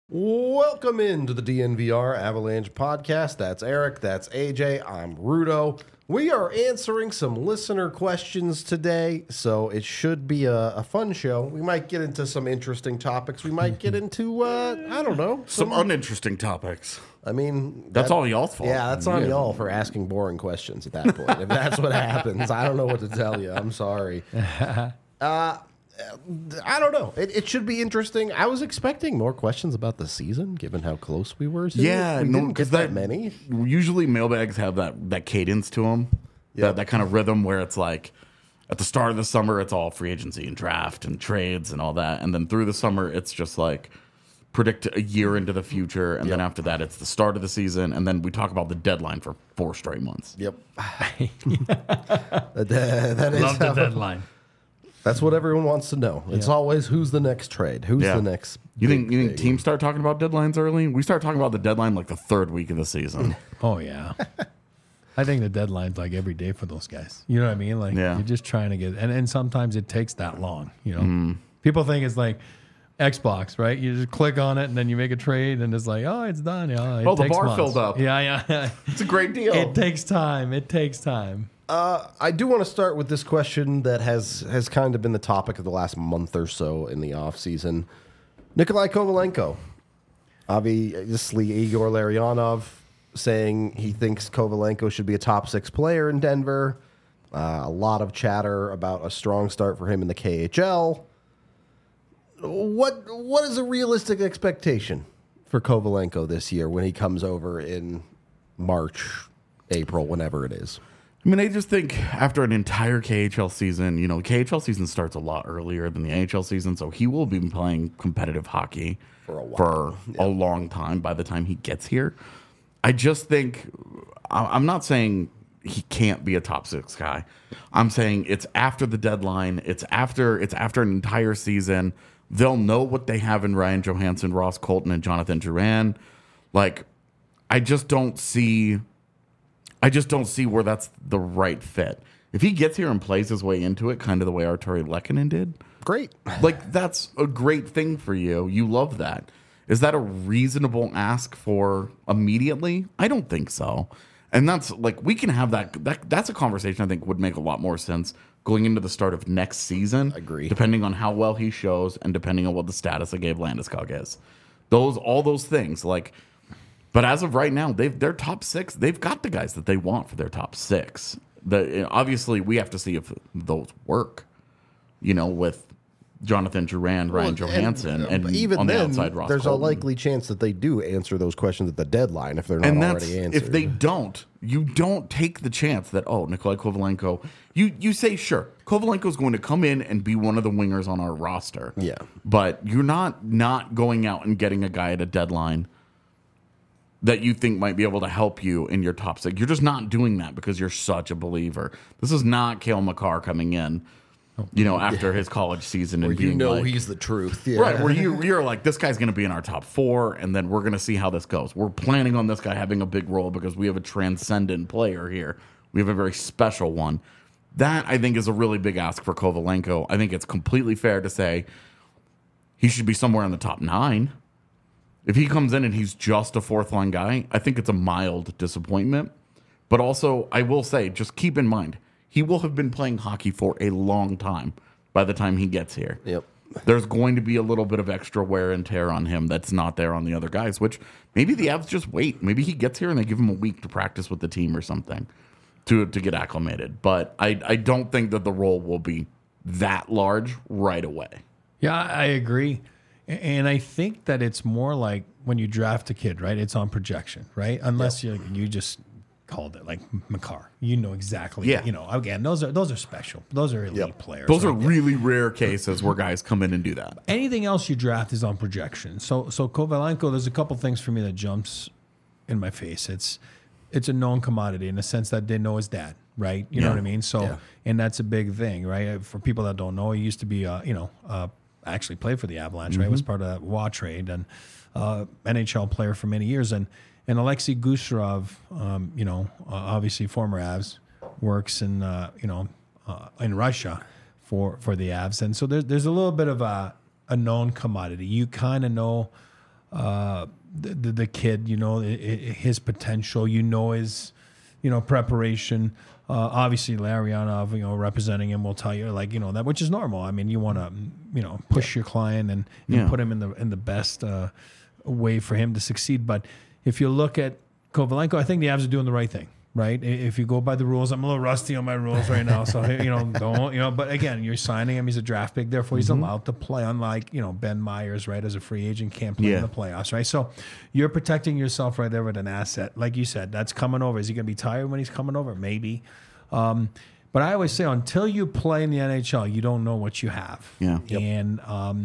Welcome into the DNVR Avalanche podcast. That's Eric, that's AJ, I'm Rudo. We are answering some listener questions today, so it should be a fun show. We might get into some interesting topics. We might get into, I don't know. Some uninteresting topics. I mean... That's all y'all's fault. Yeah, that's on y'all for asking boring questions at that point. If that's what happens, I don't know what to tell you. I'm sorry. I don't know. It should be interesting. I was expecting more questions about the season, given how close we were to Yeah, it. We didn't get that many. Usually mailbags have that cadence to them, that kind of rhythm where it's like at the start of the summer, it's all free agency and draft and trades and all that. And then through the summer, it's just like predict a year into the future. And then after that, it's the start of the season. And then we talk about the deadline for 4 straight months. Yep. That is Love the deadline. That's what everyone wants to know. It's always who's the next trade, who's the next. You think teams start talking about deadlines early? We start talking about the deadline like the 3rd week of the season. Oh yeah, I think the deadline's like every day for those guys. You know what I mean? Like you're just trying to get, and sometimes it takes that long. You know, people think it's like Xbox, right? You just click on it and then you make a trade, and it's like, oh, it's done. Yeah, the bar filled up. Yeah. It's a great deal. It takes time. I do want to start with this question that has kind of been the topic of the last month or so in the offseason. Nikolai Kovalenko. Obviously, Igor Larionov saying he thinks Kovalenko should be a top 6 player in Denver. A lot of chatter about a strong start for him in the KHL. What is a realistic expectation for Kovalenko this year when he comes over in March, April, whenever it is? I mean, I just think after an entire KHL season, KHL season starts a lot earlier than the AHL season, so he will be playing competitive hockey for a long time by the time he gets here. I just think, I'm not saying he can't be a top 6 guy. I'm saying it's after the deadline. It's after an entire season. They'll know what they have in Ryan Johansson, Ross Colton, and Jonathan Drouin. Like, I just don't see where that's the right fit. If he gets here and plays his way into it, kind of the way Arturi Lehkonen did, great. Like, that's a great thing for you. You love that. Is that a reasonable ask for immediately? I don't think so. And that's like, we can have that's a conversation I think would make a lot more sense going into the start of next season. Agree. Depending on how well he shows and depending on what the status of Gabe Landeskog is. All those things, like. But as of right now, they're top 6. They've got the guys that they want for their top 6. Obviously, we have to see if those work. With Jonathan Drouin, Ryan Johansson, and even on then, the outside, Ross there's Colton. a likely chance that they do answer those questions at the deadline if they're not already answered. If they don't, you don't take the chance that, Nikolai Kovalenko, you say, sure, Kovalenko's going to come in and be one of the wingers on our roster. Yeah. But you're not going out and getting a guy at a deadline that you think might be able to help you in your top 6. You're just not doing that because you're such a believer. This is not Cale Makar coming in, after his college season and being like, he's the truth. Yeah. Right, where you're like, this guy's going to be in our top 4, and then we're going to see how this goes. We're planning on this guy having a big role because we have a transcendent player here. We have a very special one. That, I think, is a really big ask for Kovalenko. I think it's completely fair to say he should be somewhere in the top 9. If he comes in and he's just a 4th-line guy, I think it's a mild disappointment. But also, I will say, just keep in mind, he will have been playing hockey for a long time by the time he gets here. Yep. There's going to be a little bit of extra wear and tear on him that's not there on the other guys, which maybe the Avs just wait. Maybe he gets here and they give him a week to practice with the team or something to get acclimated. But I don't think that the role will be that large right away. Yeah, I agree. And I think that it's more like when you draft a kid, right? It's on projection, right? Unless you just called it like Makar. You know exactly. Yeah. Again, those are special. Those are elite players. Those are really rare cases where guys come in and do that. Anything else you draft is on projection. So Kovalenko, there's a couple things for me that jumps in my face. It's a known commodity in the sense that they know his dad, right? You know what I mean? So, and that's a big thing, right? For people that don't know, he used to be, actually played for the Avalanche, right? Was part of that WA trade and NHL player for many years. And Alexei Gusarov, obviously former Avs, works in Russia for the Avs. And so there's a little bit of a known commodity. You kind of know the kid, his potential, his, preparation. Obviously, Larionov, representing him will tell you that, which is normal. I mean, you want to, push your client and put him in the best way for him to succeed. But if you look at Kovalenko, I think the Avs are doing the right thing. Right. If you go by the rules, I'm a little rusty on my rules right now. So, don't, but again, you're signing him. He's a draft pick. Therefore, he's allowed to play, unlike, Ben Myers, right, as a free agent, can't play in the playoffs. Right. So you're protecting yourself right there with an asset. Like you said, that's coming over. Is he going to be tired when he's coming over? Maybe. But I always say, until you play in the NHL, you don't know what you have. Yeah. And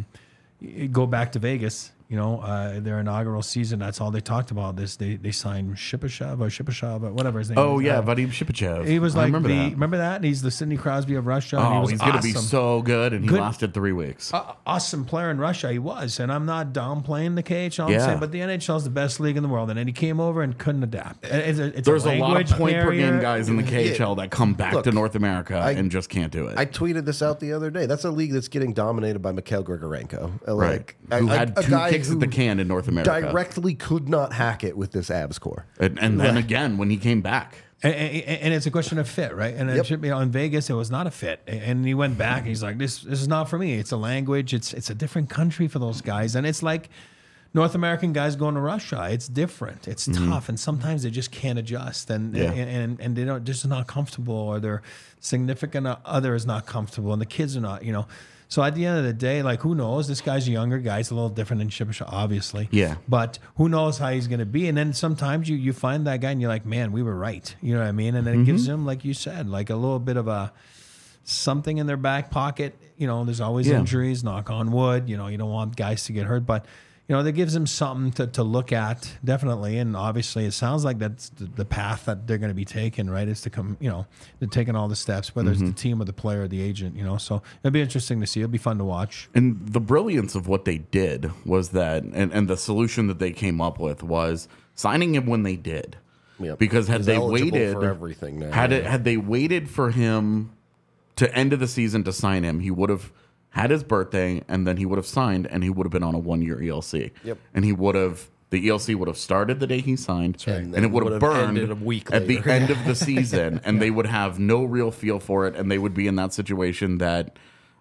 go back to Vegas. Their inaugural season, that's all they talked about. They signed Shipachyov, or whatever his name is. Oh, yeah, Vadim Shipachev. He was like, remember that? He's the Sidney Crosby of Russia. Oh, he's going to be so good, and he lasted 3 weeks. Awesome player in Russia, he was. And I'm not downplaying the KHL, I'm saying, but the NHL is the best league in the world. And then he came over and couldn't adapt. There's a lot of point-per-game guys in the KHL that come back to North America and just can't do it. I tweeted this out the other day. That's a league that's getting dominated by Mikhail Grigorenko. Right. Who had 2 kicks at the can in North America. Directly could not hack it with this Avs core. And then again, when he came back. And it's a question of fit, right? And it should be in Vegas, it was not a fit. And he went back, and he's like, this is not for me. It's a language. It's a different country for those guys. And it's like North American guys going to Russia. It's different. It's tough. And sometimes they just can't adjust. And they're just not comfortable, or their significant other is not comfortable, and the kids are not, So at the end of the day, who knows? This guy's a younger guy. He's a little different than Shipachyov, obviously. Yeah. But who knows how he's going to be? And then sometimes you find that guy and you're like, man, we were right. You know what I mean? And then it gives them, like you said, a little bit of something in their back pocket. There's always injuries, knock on wood. You don't want guys to get hurt. But, that gives them something to look at, definitely. And obviously, it sounds like that's the path that they're going to be taking, right? Is to come, they're taking all the steps, whether it's the team or the player or the agent, So it'll be interesting to see. It'll be fun to watch. And the brilliance of what they did was that, and the solution that they came up with was signing him when they did. Yep. Because had they waited for everything now, had they waited for him to end of the season to sign him, he would have had his birthday, and then he would have signed, and he would have been on a 1-year ELC. Yep. And the ELC would have started the day he signed, and it would have burned a week at later. the end of the season, and they would have no real feel for it, and they would be in that situation that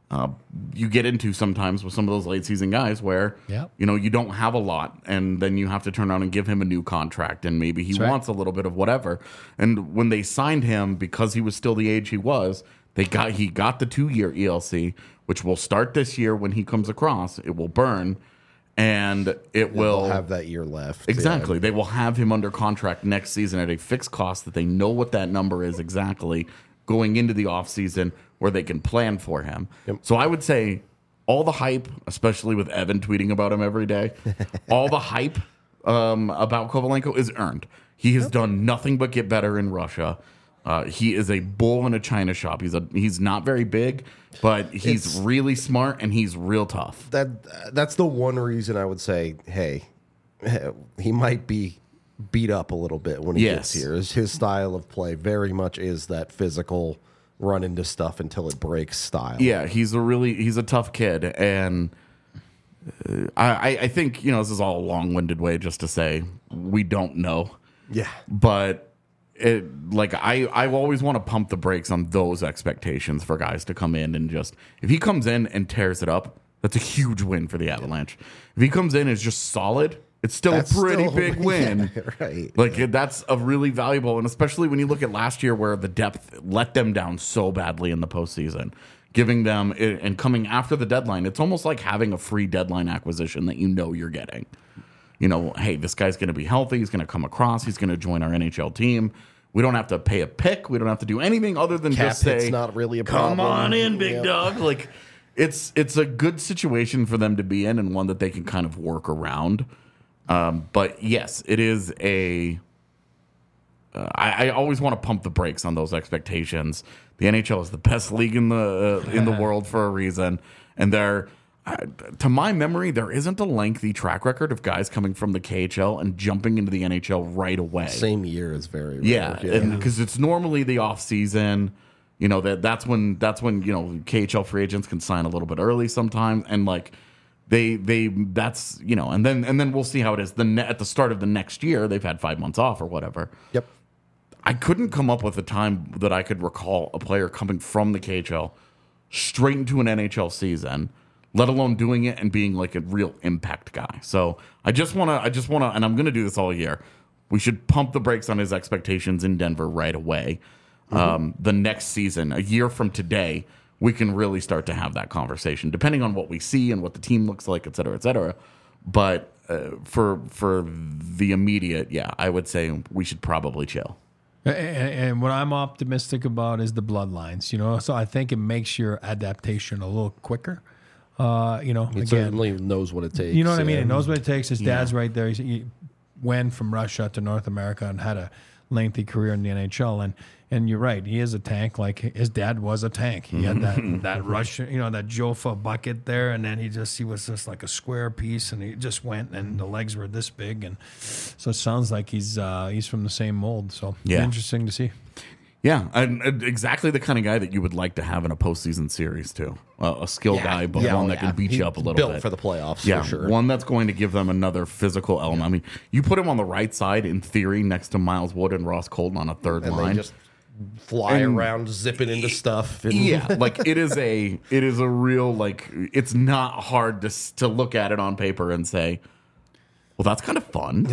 you get into sometimes with some of those late season guys where, you don't have a lot, and then you have to turn around and give him a new contract, and maybe he wants a little bit of whatever. And when they signed him, because he was still the age he was, he got the 2-year ELC, which will start this year when he comes across. It will burn, and it will have that year left. Exactly. Yeah. They will have him under contract next season at a fixed cost that they know what that number is exactly going into the offseason, where they can plan for him. Yep. So I would say all the hype, especially with Evan tweeting about him every day, all the hype about Kovalenko is earned. He has done nothing but get better in Russia. He is a bull in a china shop. He's not very big, but he's really smart, and he's real tough. That's the one reason I would say, hey, he might be beat up a little bit when he gets here. His style of play very much is that physical run into stuff until it breaks style. Yeah, he's a tough kid, and I think this is all a long-winded way just to say we don't know. Yeah, but. I always want to pump the brakes on those expectations for guys to come in and just, if he comes in and tears it up, that's a huge win for the Avalanche. If he comes in and is just solid, it's still a pretty big win. Yeah, right. That's a really valuable, and especially when you look at last year where the depth let them down so badly in the postseason, giving them, and coming after the deadline, it's almost like having a free deadline acquisition that you're getting. Hey, this guy's going to be healthy. He's going to come across. He's going to join our NHL team. We don't have to pay a pick. We don't have to do anything other than just say, it's not really a problem. Come on in, big dog. It's a good situation for them to be in, and one that they can kind of work around. But yes, it is I always want to pump the brakes on those expectations. The NHL is the best league in the world for a reason, and to my memory, there isn't a lengthy track record of guys coming from the KHL and jumping into the NHL right away. Same year is very rare. Yeah, because it's normally the off season. That's when KHL free agents can sign a little bit early sometimes, and that's, and then we'll see how it is. At the start of the next year, they've had 5 months off or whatever. Yep. I couldn't come up with a time that I could recall a player coming from the KHL straight into an NHL season, let alone doing it and being like a real impact guy. So I just want to, and I'm going to do this all year. We should pump the brakes on his expectations in Denver right away. The next season, a year from today, we can really start to have that conversation, depending on what we see and what the team looks like, et cetera, et cetera. But for the immediate, I would say we should probably chill. And what I'm optimistic about is the bloodlines, so I think it makes your adaptation a little quicker. He certainly knows what it takes. You know what I mean? He knows what it takes. His dad's right there. He went from Russia to North America and had a lengthy career in the NHL. And you're right. He is a tank. Like his dad was a tank. He had that Russian, that Jofa bucket there. And then he was just like a square piece, and he just went, and the legs were this big. And so it sounds like he's from the same mold. So interesting to see. Yeah, and exactly the kind of guy that you would like to have in a postseason series too. A skilled guy, but one that can beat you up a little bit. Built for the playoffs, for sure. One that's going to give them another physical element. I mean, you put him on the right side, in theory, next to Miles Wood and Ross Colton on a third line. They just fly around, zipping into stuff. And like it is a real, like, it's not hard to look at it on paper and say, well, that's kind of fun.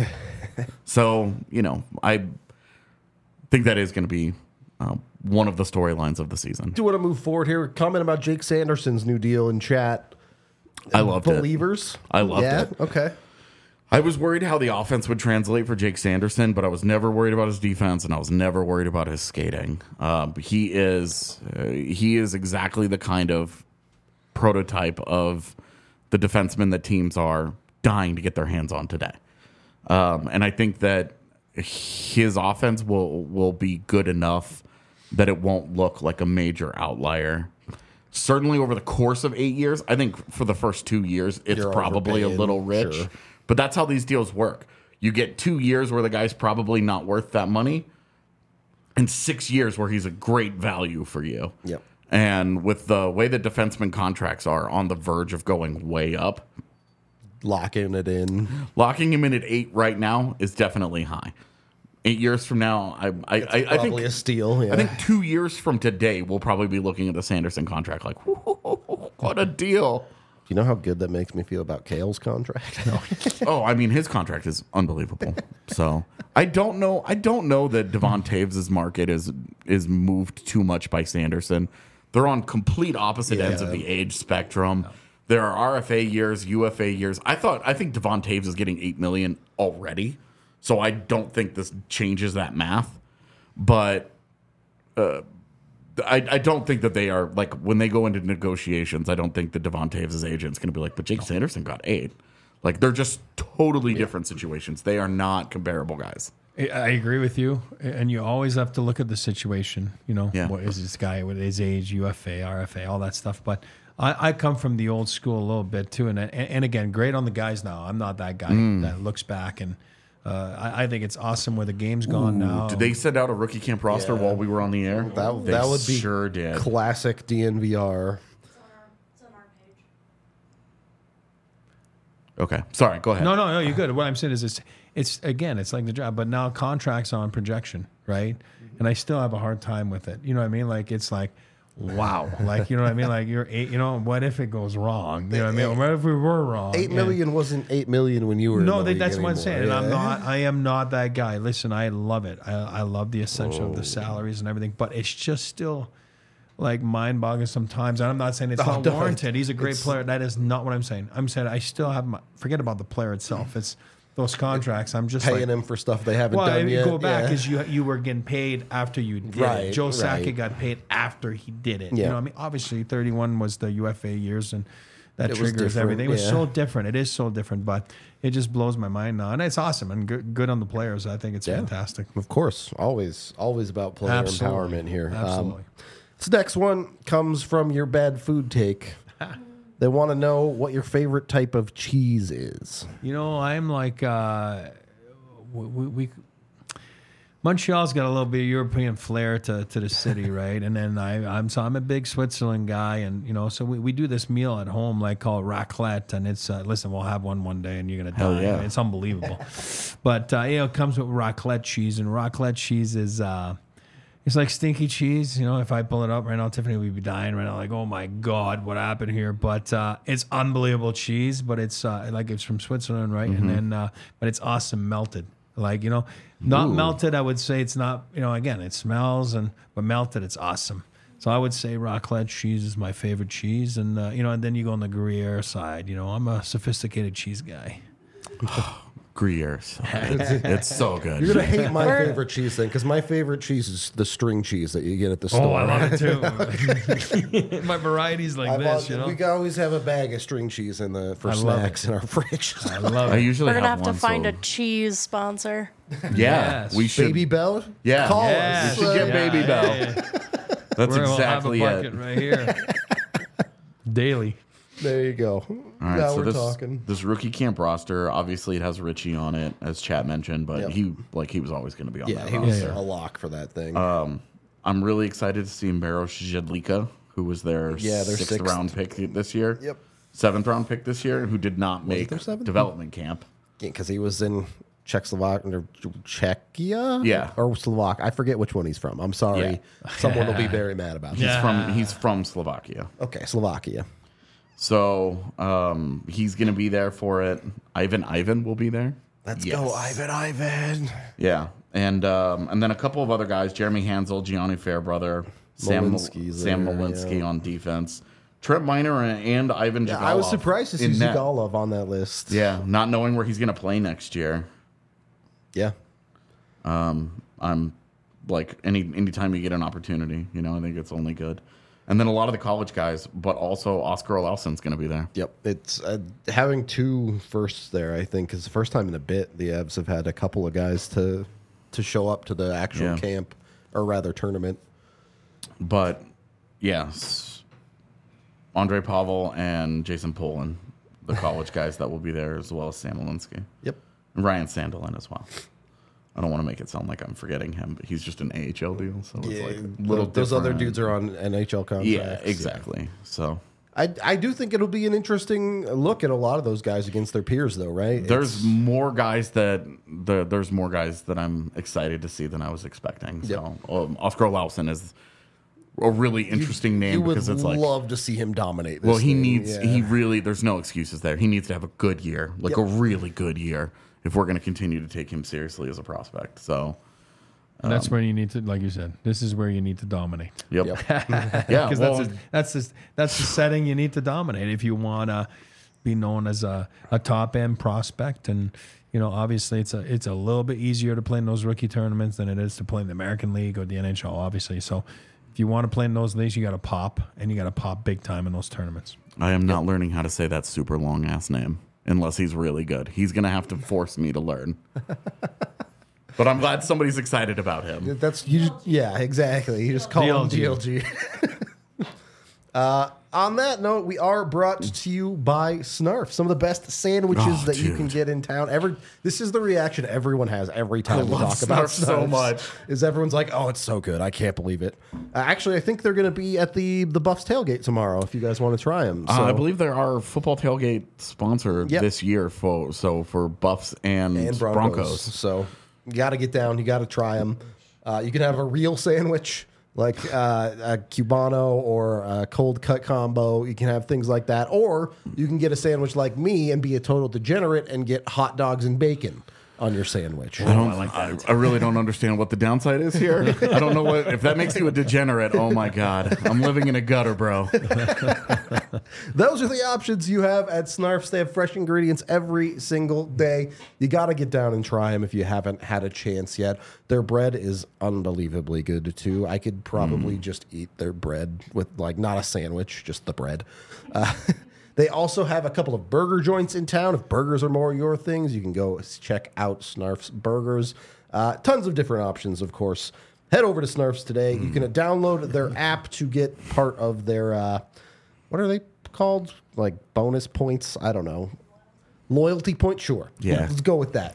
So, I think that is going to be one of the storylines of the season. Do you want to move forward here? Comment about Jake Sanderson's new deal in chat. I loved Believers? it. I loved it. Okay. I was worried how the offense would translate for Jake Sanderson, but I was never worried about his defense, and I was never worried about his skating. He is exactly the kind of prototype of the defenseman that teams are dying to get their hands on today. And I think that his offense will be good enough that it won't look like a major outlier. Certainly over the course of 8 years, I think for the first 2 years, it's probably a little rich. Sure. But that's how these deals work. You get 2 years where the guy's probably not worth that money, and 6 years where he's a great value for you. Yep. And with the way that defenseman contracts are on the verge of going way up, locking him in at 8 right now is definitely high. 8 years from now, I think probably a steal. Yeah. I think 2 years from today, we'll probably be looking at the Sanderson contract like, what a deal. Do you know how good that makes me feel about Kale's contract? Oh, I mean, his contract is unbelievable. So I don't know that Devon Toews' market is moved too much by Sanderson. They're on complete opposite ends of the age spectrum. Yeah. There are RFA years, UFA years. I think Devon Toews is getting $8 million already. So I don't think this changes that math. But I don't think that they are, like, when they go into negotiations, I don't think that Devon Toews' agent's going to be like, but Jake Sanderson got 8. Like, they're just totally different situations. They are not comparable guys. I agree with you. And you always have to look at the situation. What is this guy with his age, UFA, RFA, all that stuff. But I come from the old school a little bit, too. And again, great on the guys now. I'm not that guy that looks back and I think it's awesome where the game's gone now. Did they send out a rookie camp roster while we were on the air? That would be sure did. Classic DNVR. It's on our page. Okay. Sorry, go ahead. No, you're good. What I'm saying is it's like the job, but now contracts on projection, right? And I still have a hard time with it. You know what I mean? Like, it's like, wow. Like, you know what I mean? Like, you're 8, what if it goes wrong? You know what I mean? What if we were wrong? 8 million wasn't 8 million when you were No, that's what I'm saying. And I am not that guy. Listen, I love it. I love the ascension of the salaries and everything, but it's just still like mind-boggling sometimes. And I'm not saying it's not warranted. He's a great player. That is not what I'm saying. I'm saying I still have forget about the player itself. It's those contracts. I'm just paying him for stuff they haven't done yet. Go back is you were getting paid after you did it. Joe Sakic got paid after he did it. Yeah. I mean, obviously 31 was the UFA years and that triggers everything. It was so different. It is so different, but it just blows my mind now. And it's awesome and good on the players. I think it's fantastic. Of course. Always about player empowerment here. Absolutely. This next one comes from your bad food take. They want to know what your favorite type of cheese is. I'm like, my Montreal's got a little bit of European flair to the city, right? And then I'm a big Switzerland guy, and so we do this meal at home like called raclette, and it's listen, we'll have one day, and you're gonna die. yeah. It's unbelievable. But it comes with raclette cheese, and raclette cheese is it's like stinky cheese. If I pull it up right now, Tiffany would be dying right now, like, oh my God, what happened here? But it's unbelievable cheese, but it's like it's from Switzerland, right? And then but it's awesome melted. Like, not melted, I would say it's not, again, it smells, but melted, it's awesome. So I would say raclette cheese is my favorite cheese. And, and then you go on the Gruyere side. I'm a sophisticated cheese guy. Gruyere. It's so good. You're going to hate my favorite cheese thing, because my favorite cheese is the string cheese that you get at the store. Oh, I love it too. My varieties like this, We always have a bag of string cheese for snacks in our fridge. I love I it. usually We're gonna have to one, find so- a cheese sponsor. Yeah, Yes. we should. Baby Bell? Yeah. Call Yeah. us. You should get Baby Bell. Yeah. That's We'll exactly have a it. bucket right here. Daily. There you go. All right, now so we're talking. this rookie camp roster, obviously it has Richie on it, as Chat mentioned, but Yep. he was always going to be on Yeah, that he roster. was a lock for that thing. I'm really excited to see Maros Jedlika, who was their their sixth round pick this year. Yep. 7th round pick this year, who did not make their seventh? development camp. Because he was in Czechia, Yeah. or Slovak. I forget which one he's from. I'm sorry. Yeah. Someone will be very mad about this. Yeah. He's from Slovakia. Okay, Slovakia. So he's going to be there for it. Ivan will be there. Let's Yes. go, Ivan. Yeah, and then a couple of other guys: Jeremy Hansel, Gianni Fairbrother, Sam Malinsky's Malinsky there, on defense, Trent Miner, and Ivan. Yeah, Jagalov I was surprised to see in net. Zigalov on that list. Yeah, not knowing where he's going to play next year. Yeah. I'm like anytime you get an opportunity, I think it's only good. And then a lot of the college guys, but also Oscar Olausen's going to be there. Yep. It's having two firsts there, I think, is the first time in a bit the Evs have had a couple of guys to show up to the actual Yeah. camp, or rather tournament. But yes, Andre Pavel and Jason Polin, the college guys that will be there, as well as Sam Malinsky. Yep. And Ryan Sandelin as well. I don't want to make it sound like I'm forgetting him, but he's just an AHL deal, so it's like a little those other different. dudes are on NHL contracts. Yeah, exactly. So I do think it'll be an interesting look at a lot of those guys against their peers, though, right? there's more guys that I'm excited to see than I was expecting. So Oscar Olausen is a really interesting name, You would because it's like, love to see him dominate. This well, he thing. needs Yeah. he really there's no excuses there. He needs to have a good year, like a really good year, if we're going to continue to take him seriously as a prospect. So That's where you need to, like you said, this is where you need to dominate. yep. Yeah, Because well, that's the setting you need to dominate if you want to be known as a top end prospect. And obviously it's a little bit easier to play in those rookie tournaments than it is to play in the American League or the NHL, obviously. So if you want to play in those leagues, you got to pop, and you got to pop big time in those tournaments. I am not learning how to say that super long ass name unless he's really good. He's going to have to force me to learn. But I'm glad somebody's excited about him. That's you. Yeah, exactly. You just call him DLG. DLG. On that note, we are brought to you by Snarf, some of the best sandwiches that you can dude. get in town. This is the reaction everyone has every time we love talk about Snarf so Snarfs, much. Is everyone's like, "Oh, it's so good! I can't believe it." Actually, I think they're going to be at the Buffs tailgate tomorrow. If you guys want to try them, I believe there are football tailgate sponsor Yep. this year for Buffs and Broncos. So you got to get down. You got to try them. You can have a real sandwich like a Cubano or a cold cut combo. You can have things like that. Or you can get a sandwich like me and be a total degenerate and get hot dogs and bacon on your sandwich. I really don't understand what the downside is here. I don't know if that makes you a degenerate. Oh my God. I'm living in a gutter, bro. Those are the options you have at Snarfs. They have fresh ingredients every single day. You got to get down and try them if you haven't had a chance yet. Their bread is unbelievably good too. I could probably just eat their bread with not a sandwich, just the bread. They also have a couple of burger joints in town. If burgers are more your things, you can go check out Snarf's Burgers. Tons of different options, of course. Head over to Snarf's today. You can download their app to get part of their, what are they called? Like bonus points? I don't know. Loyalty point? Sure. Yeah. Let's go with that.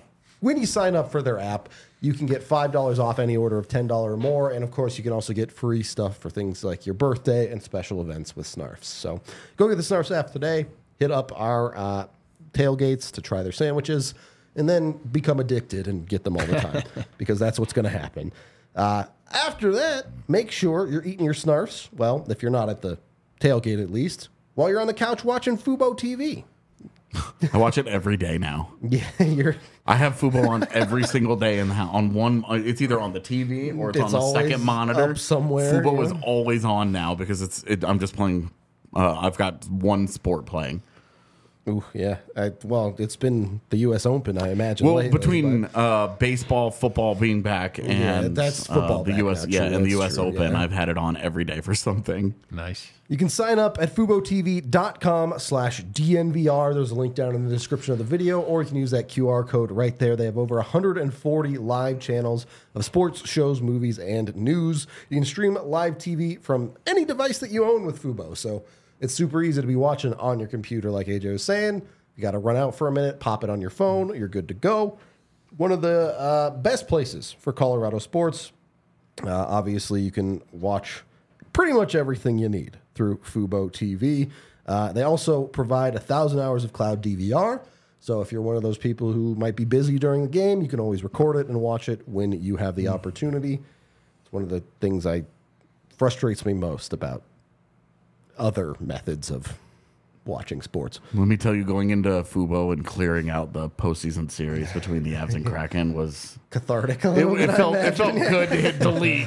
when you sign up for their app, you can get $5 off any order of $10 or more. And, of course, you can also get free stuff for things like your birthday and special events with Snarfs. So go get the Snarfs app today. Hit up our tailgates to try their sandwiches, and then become addicted and get them all the time because that's what's going to happen. After that, make sure you're eating your Snarfs, well, if you're not at the tailgate at least, while you're on the couch watching Fubo TV. I watch it every day now. Yeah, I have Fubo on every single day in the house. On one, it's either on the TV or it's on the second monitor up somewhere. Fubo is always on now because I'm just playing. I've got one sport playing. Ooh, yeah. Well, it's been the U.S. Open, I imagine. Well, lately, between baseball, football being back, and that's football. The back U.S. now, and the U.S. true, Open, yeah. I've had it on every day for something. Nice. You can sign up at FuboTV.com/DNVR. There's a link down in the description of the video, or you can use that QR code right there. They have over 140 live channels of sports, shows, movies, and news. You can stream live TV from any device that you own with Fubo. So it's super easy to be watching on your computer, like AJ was saying. You got to run out for a minute, pop it on your phone, you're good to go. One of the best places for Colorado sports. Obviously, you can watch pretty much everything you need through Fubo TV. They also provide 1,000 hours of cloud DVR. So if you're one of those people who might be busy during the game, you can always record it and watch it when you have the opportunity. It's one of the things that frustrates me most about other methods of watching sports. Let me tell you, going into Fubo and clearing out the postseason series between the Avs and Kraken was Cathartic a little bit, it felt good to hit delete.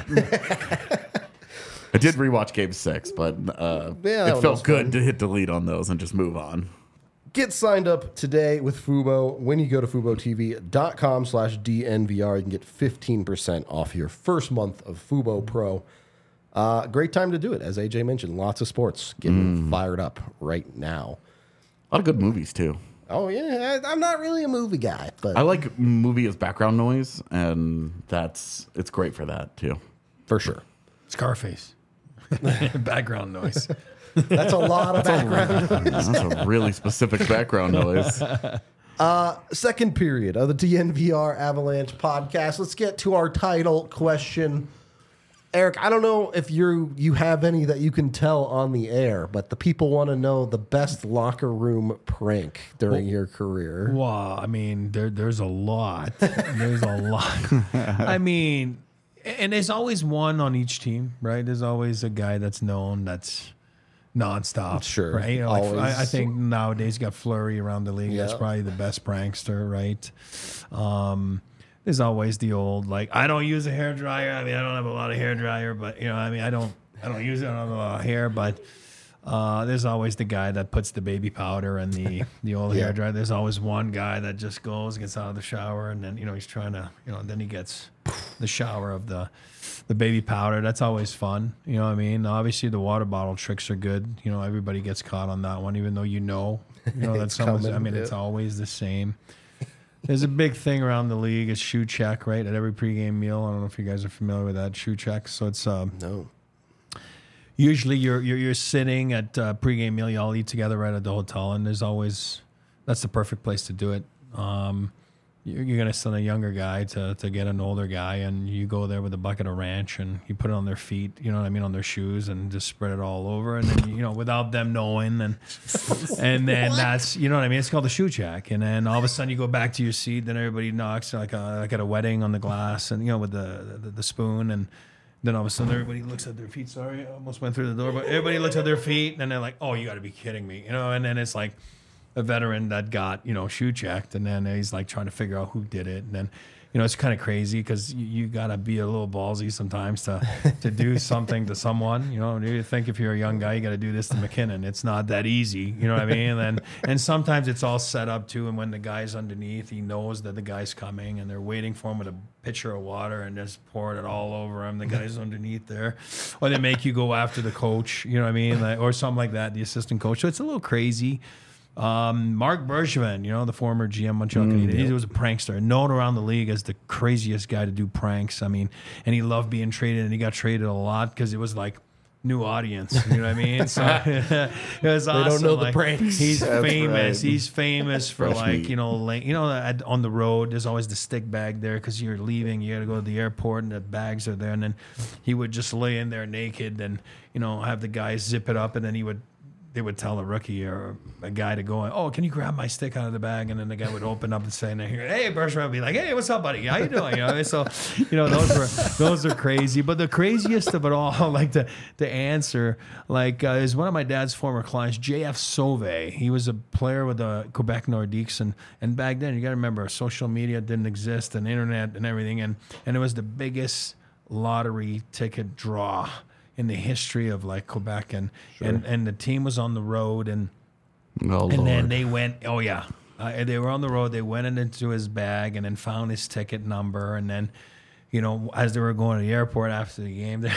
I did rewatch Game 6, but it felt good to hit delete on those and just move on. Get signed up today with Fubo. When you go to FuboTV.com/DNVR, you can get 15% off your first month of Fubo Pro. Great time to do it. As AJ mentioned, lots of sports getting fired up right now. A lot of good movies, too. Oh, yeah. I'm not really a movie guy, but I like movie as background noise, and it's great for that, too. for sure. Scarface. Background noise. That's a lot of background. That's a really specific background noise. Second period of the DNVR Avalanche podcast. Let's get to our title question. Eric, I don't know if you have any that you can tell on the air, but the people want to know the best locker room prank during your career. Wow, I mean, there's a lot. There's a lot. I mean, and there's always one on each team, right? There's always a guy that's known that's nonstop. Sure. Right? You know, like, Always. I think nowadays you got Fleury around the league. That's Yeah. probably the best prankster, right? There's always the old, like, I don't use a hair dryer. I mean, I don't have a lot of hair dryer, but, you know, I mean, I don't use it. I don't have a lot of hair, but there's always the guy that puts the baby powder in the old hair dryer. There's always one guy that just gets out of the shower, and then, you know, he's trying to, you know, then he gets the shower of the baby powder. That's always fun. You know what I mean? Obviously, the water bottle tricks are good. You know, everybody gets caught on that one, even though you know that someone's, coming, I mean, it's always the same. There's a big thing around the league. It's shoe check, right? At every pregame meal. I don't know if you guys are familiar with that, shoe check. So it's No. usually you're sitting at pregame meal. You all eat together right at the hotel, and there's always that's the perfect place to do it. You're gonna send a younger guy to get an older guy, and you go there with a bucket of ranch, and you put it on their feet. You know what I mean, on their shoes, and just spread it all over, and then, you know, without them knowing, and then that's, you know what I mean. It's called the shoe check, and then all of a sudden you go back to your seat. Then everybody knocks like at a wedding on the glass, and, you know, with the spoon, and then all of a sudden everybody looks at their feet. Sorry, I almost went through the door, but everybody looks at their feet, and then they're like, "Oh, you got to be kidding me," you know. And then it's like a veteran that got, you know, shoe checked, and then he's like trying to figure out who did it, and then, you know, it's kind of crazy because you got to be a little ballsy sometimes to do something to someone. You know, you think if you're a young guy, you got to do this to McKinnon. It's not that easy. You know what I mean? And sometimes it's all set up too. And when the guy's underneath, he knows that the guy's coming, and they're waiting for him with a pitcher of water and just pouring it all over him. The guy's underneath there, or they make you go after the coach. You know what I mean? Like, or something like that, the assistant coach. So it's a little crazy. Mark Bergevin, you know, the former GM Montreal Canadiens, he was a prankster, known around the league as the craziest guy to do pranks. I mean, and he loved being traded, and he got traded a lot because it was like new audience. You know what I mean? So it was awesome. They don't know the like, pranks. He's That's famous. right. He's famous for Fresh like, meat. on the road, there's always the stick bag there because you're leaving. You got to go to the airport and the bags are there. And then he would just lay in there naked and, have the guys zip it up. And then they would tell a rookie or a guy to go, oh, can you grab my stick out of the bag? And then the guy would open up and say, and hey, Bergeron would be like, hey, what's up, buddy? How you doing? So, those are crazy. But the craziest of it all, like to answer, is one of my dad's former clients, J.F. Sauvé. He was a player with the Quebec Nordiques. And back then, you got to remember, social media didn't exist and internet and everything. And it was the biggest lottery ticket draw in the history of like Quebec, and the team was on the road, and then they went. Oh yeah, they were on the road. They went into his bag and then found his ticket number, and then, as they were going to the airport after the game,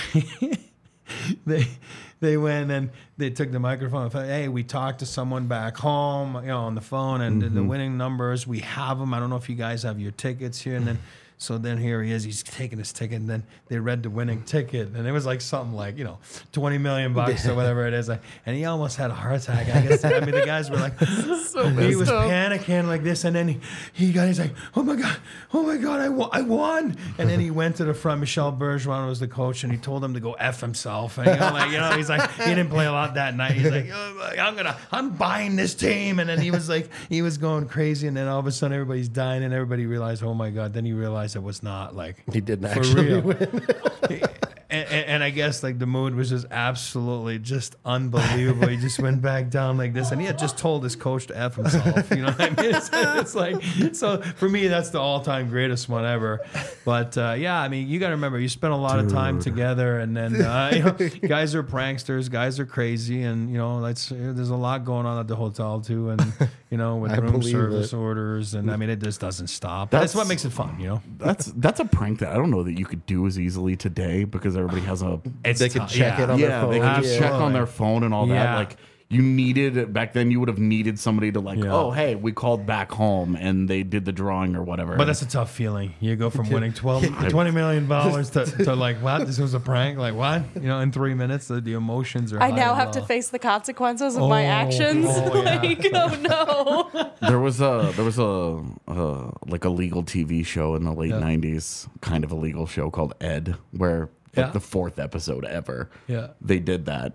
they went and they took the microphone and said, hey, we talked to someone back home, on the phone, and the winning numbers, we have them. I don't know if you guys have your tickets here, and then. So then here he is, he's taking his ticket, and then they read the winning ticket, and it was like something like, $20 million or whatever it is. And he almost had a heart attack. I guess. I mean, the guys were like, he was panicking like this, and then he's like, oh my God, I won. And then he went to the front. Michel Bergeron was the coach, and he told him to go F himself. And he's like, he didn't play a lot that night. He's like, I'm buying this team. And then he was going crazy, and then all of a sudden everybody's dying, and everybody realized, oh my God. Then he realized it was not like He didn't for actually real. win. And I guess like the mood was just absolutely just unbelievable. He just went back down like this, and he had just told his coach to F himself. You know what I mean? It's like, so for me, that's the all-time greatest one ever. But yeah, I mean, you got to remember, you spend a lot of time together, and then guys are pranksters, guys are crazy, and there's a lot going on at the hotel too, and with room service orders, and I mean, it just doesn't stop. That's what makes it fun, That's a prank that I don't know that you could do as easily today because everybody has a. They could check it on their phone. They can just check Absolutely. on their phone and all that. Yeah. Like you needed back then, you would have needed somebody to oh hey, we called back home and they did the drawing or whatever. But that's a tough feeling. You go from winning $20 million to like, what? This was a prank? Like, what? In 3 minutes, the emotions are I high now and have to low. face the consequences of my actions. Oh, yeah. No. There was a like a legal TV show in the late '90s, kind of a legal show called Ed, where like the 4th episode ever, they did that.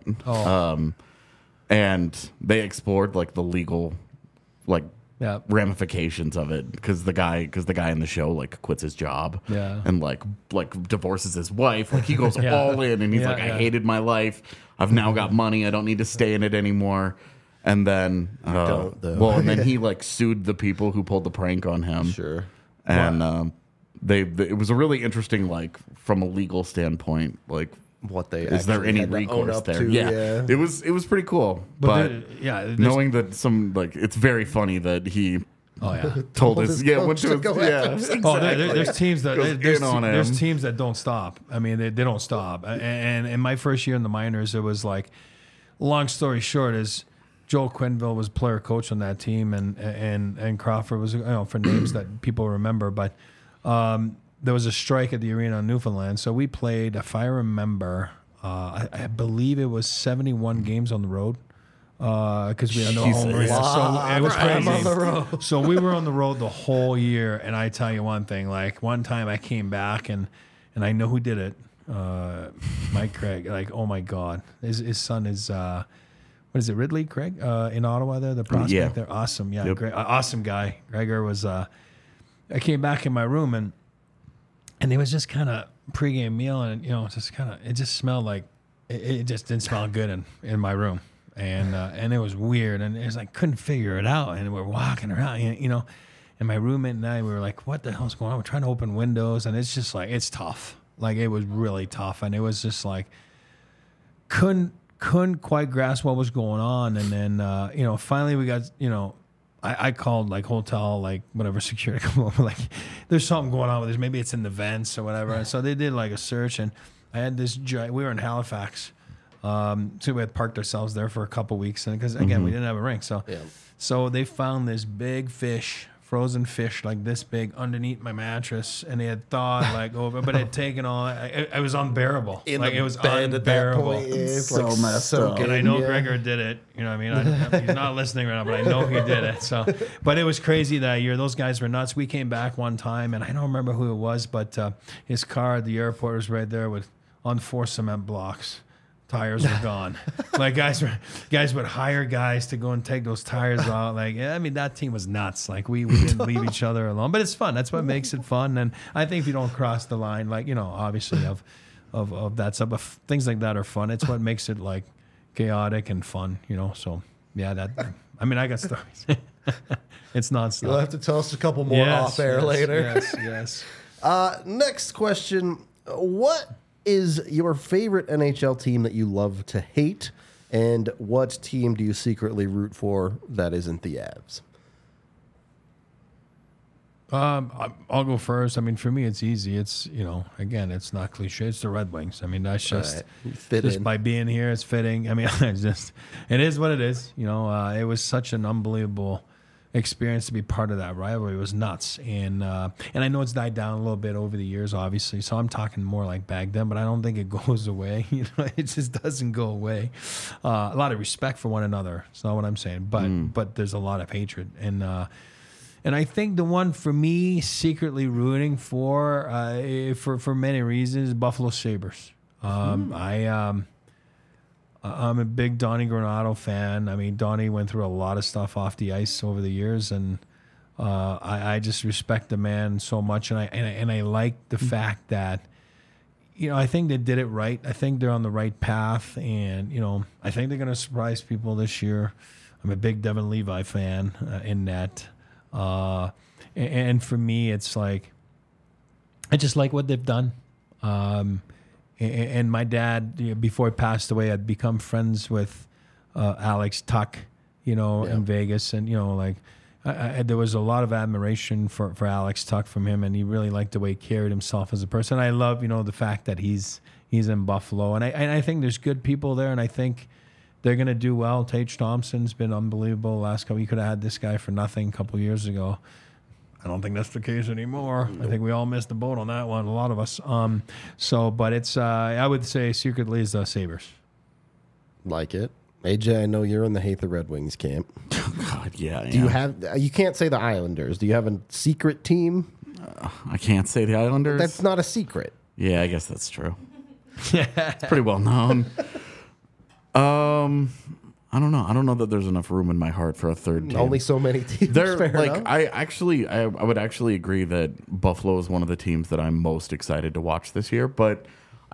And they explored like the legal, like ramifications of it because the guy in the show like quits his job and like divorces his wife. Like he goes all in, and he's like, I hated my life. I've now got money. I don't need to stay in it anymore. And then, don't, though. and then he like sued the people who pulled the prank on him. Sure. And it was a really interesting, like from a legal standpoint, like What they is there actually any had to own recourse up there? to, Yeah, it was pretty cool. But knowing that it's very funny that he told his his coach went to to go his, after himself. Oh, there's teams that Goes in on there's him. teams that don't stop. I mean, they don't stop. And in my first year in the minors, it was like, long story short, is Joel Quenneville was player coach on that team, and Crawford was for names that people remember. But there was a strike at the arena in Newfoundland, so we played. If I remember, I believe it was 71 games on the road. Because we had no home arena, so it was crazy. On the road. So we were on the road the whole year, and I tell you one thing: like one time I came back, and I know who did it. Mike Craig. Like, oh my God, his son is what is it, Ridley Craig in Ottawa? There, the prospect there, awesome, great, awesome guy. Gregor was. I came back in my room, and it was just kind of pregame meal, and just kind of it just smelled like it just didn't smell good in my room. And it was weird, and it was like couldn't figure it out. And we're walking around, and my roommate and I, we were like, "What the hell's going on?" We're trying to open windows, and it's just like it's tough. Like it was really tough, and it was just like couldn't quite grasp what was going on. And then finally we got I called like hotel, like whatever security come over, like there's something going on with this. Maybe it's in the vents or whatever. And so they did like a search, and I had this. We were in Halifax. So we had parked ourselves there for a couple weeks, and because again we didn't have a rink, so they found this big fish frozen fish like this big underneath my mattress, and they had thawed like over, but it had taken all. It was unbearable. In like the it was bed unbearable. at that point. It's So like messed so up. good. And I know Yeah. Gregor did it. You know what I mean? He's not listening right now, but I know he did it. So, but it was crazy that year. Those guys were nuts. We came back one time, and I don't remember who it was, but his car at the airport was right there with on 4 cement blocks. Tires were gone. Like guys would hire guys to go and take those tires out. Like, yeah, I mean, that team was nuts. Like we didn't leave each other alone, but it's fun. That's what makes it fun. And I think if you don't cross the line, like, you know, obviously of that stuff, but things like that are fun. It's what makes it like chaotic and fun, you know? So yeah, I mean, I got stories. It's nonstop. You'll have to tell us a couple more off air later. Yes. Next question. What is your favorite NHL team that you love to hate? And what team do you secretly root for that isn't the Avs? I'll go first. I mean, for me, it's easy. It's, you know, again, it's not cliche. It's the Red Wings. I mean, that's just, Right. Fit just in. by being here, it's fitting. I mean, it is what it is. You know, it was such an unbelievable experience to be part of that rivalry. It was nuts. And I know it's died down a little bit over the years, obviously. So I'm talking more like back then, but I don't think it goes away. You know, it just doesn't go away. A lot of respect for one another. It's not what I'm saying, but there's a lot of hatred. And I think the one for me secretly rooting for many reasons, Buffalo Sabres. I'm a big Donnie Granato fan. I mean, Donnie went through a lot of stuff off the ice over the years, and I just respect the man so much, and I like the fact that, you know, I think they did it right. I think they're on the right path, and, you know, I think they're going to surprise people this year. I'm a big Devin Levi fan in net. And for me, it's like, I just like what they've done. And my dad, you know, before he passed away, had become friends with Alex Tuck, you know, in Vegas. And, you know, like, there was a lot of admiration for Alex Tuck from him, and he really liked the way he carried himself as a person. I love, you know, the fact that he's in Buffalo. And I think there's good people there, and I think they're going to do well. Tage Thompson's been unbelievable last couple. You could have had this guy for nothing a couple years ago. I don't think that's the case anymore. Nope. I think we all missed the boat on that one, a lot of us. But it's, I would say secretly is the Sabres. Like it. AJ, I know you're in the hate the Red Wings camp. God, yeah. Do you have, you can't say the Islanders. Do you have a secret team? I can't say the Islanders. That's not a secret. Yeah, I guess that's true. It's pretty well known. I don't know. I don't know that there's enough room in my heart for a third team. Only so many teams. They're fair like, enough. I would actually agree that Buffalo is one of the teams that I'm most excited to watch this year. But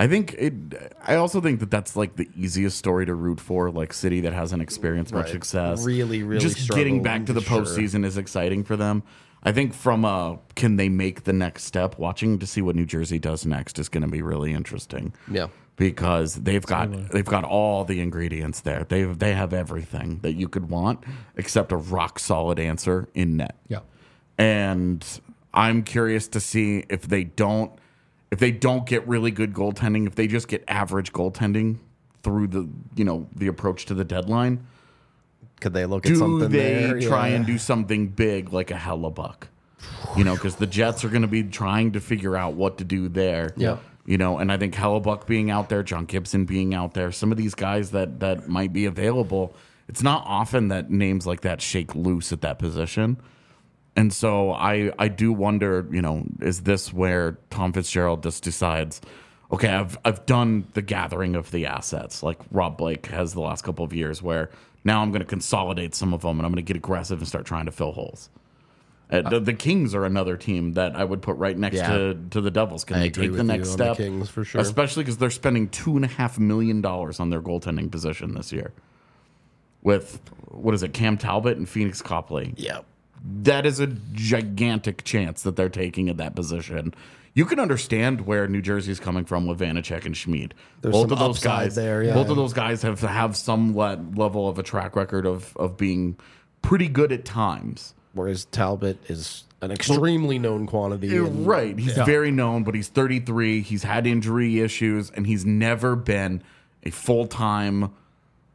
I also think that that's like the easiest story to root for, like city that hasn't experienced much success. Really just getting back to the postseason is exciting for them. I think from can they make the next step? Watching to see what New Jersey does next is going to be really interesting. Yeah. Because they've got all the ingredients there. They have everything that you could want except a rock solid answer in net. Yeah. And I'm curious to see if they don't get really good goaltending, if they just get average goaltending through the approach to the deadline. Could they look at something there? Do they try and do something big like a Hellebuck? You know, because the Jets are going to be trying to figure out what to do there. Yeah. You know, and I think Hellebuck being out there, John Gibson being out there, some of these guys that might be available, it's not often that names like that shake loose at that position. And so I do wonder, you know, is this where Tom Fitzgerald just decides, okay, I've done the gathering of the assets like Rob Blake has the last couple of years, where now I'm going to consolidate some of them and I'm going to get aggressive and start trying to fill holes. The Kings are another team that I would put right next to the Devils. Can they take the next step? The Kings, for sure. Especially because they're spending $2.5 million on their goaltending position this year. With, what is it, Cam Talbot and Phoenix Copley. Yeah. That is a gigantic chance that they're taking at that position. You can understand where New Jersey's coming from with Vanacek and Schmid. Both of those guys there, yeah. Both of those guys have some level of a track record of being pretty good at times. Whereas Talbot is an extremely known quantity. Right. He's very known, but he's 33. He's had injury issues, and he's never been a full-time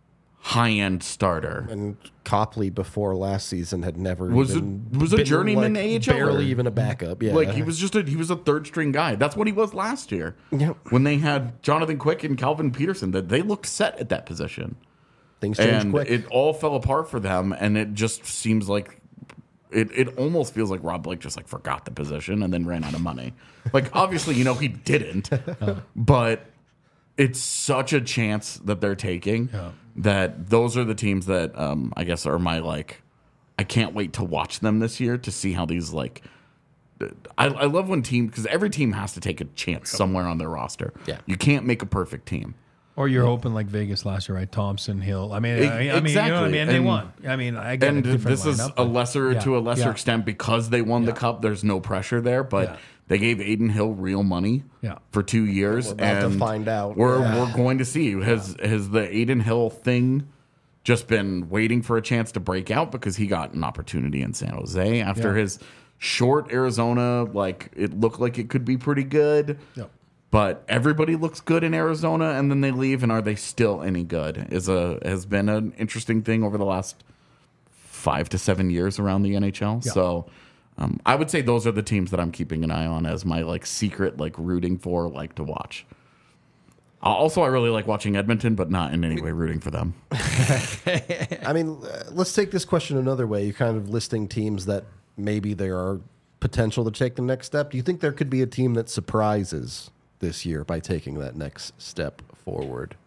high-end starter. And Copley before last season had never Was a been, journeyman like, AHL. barely even a backup. Yeah, Like he was a third string guy. That's what he was last year. Yep. When they had Jonathan Quick and Calvin Peterson, that they looked set at that position. Things changed And quick. it all fell apart for them, and it just seems like it almost feels like Rob Blake just like forgot the position and then ran out of money. Like obviously, he didn't, but it's such a chance that they're taking that those are the teams that I guess are my like. I can't wait to watch them this year to see how these like. I love when teams because every team has to take a chance somewhere on their roster. Yeah, you can't make a perfect team. Or you're hoping like Vegas last year, right? Thompson, Hill. I mean, Exactly. you know what I mean? And they won. I mean, I get And a different this is lineup, to a lesser extent because they won the cup. There's no pressure there, but they gave Aiden Hill real money for 2 years. We're about to and find out. We're going to see has the Aiden Hill thing just been waiting for a chance to break out because he got an opportunity in San Jose after his short Arizona. Like it looked like it could be pretty good. Yep. But everybody looks good in Arizona, and then they leave, and are they still any good? Has been an interesting thing over the last 5 to 7 years around the NHL. Yeah. So I would say those are the teams that I'm keeping an eye on as my like secret like rooting for, like to watch. Also, I really like watching Edmonton, but not in any way rooting for them. I mean, let's take this question another way. You're kind of listing teams that maybe there are potential to take the next step. Do you think there could be a team that surprises this year by taking that next step forward?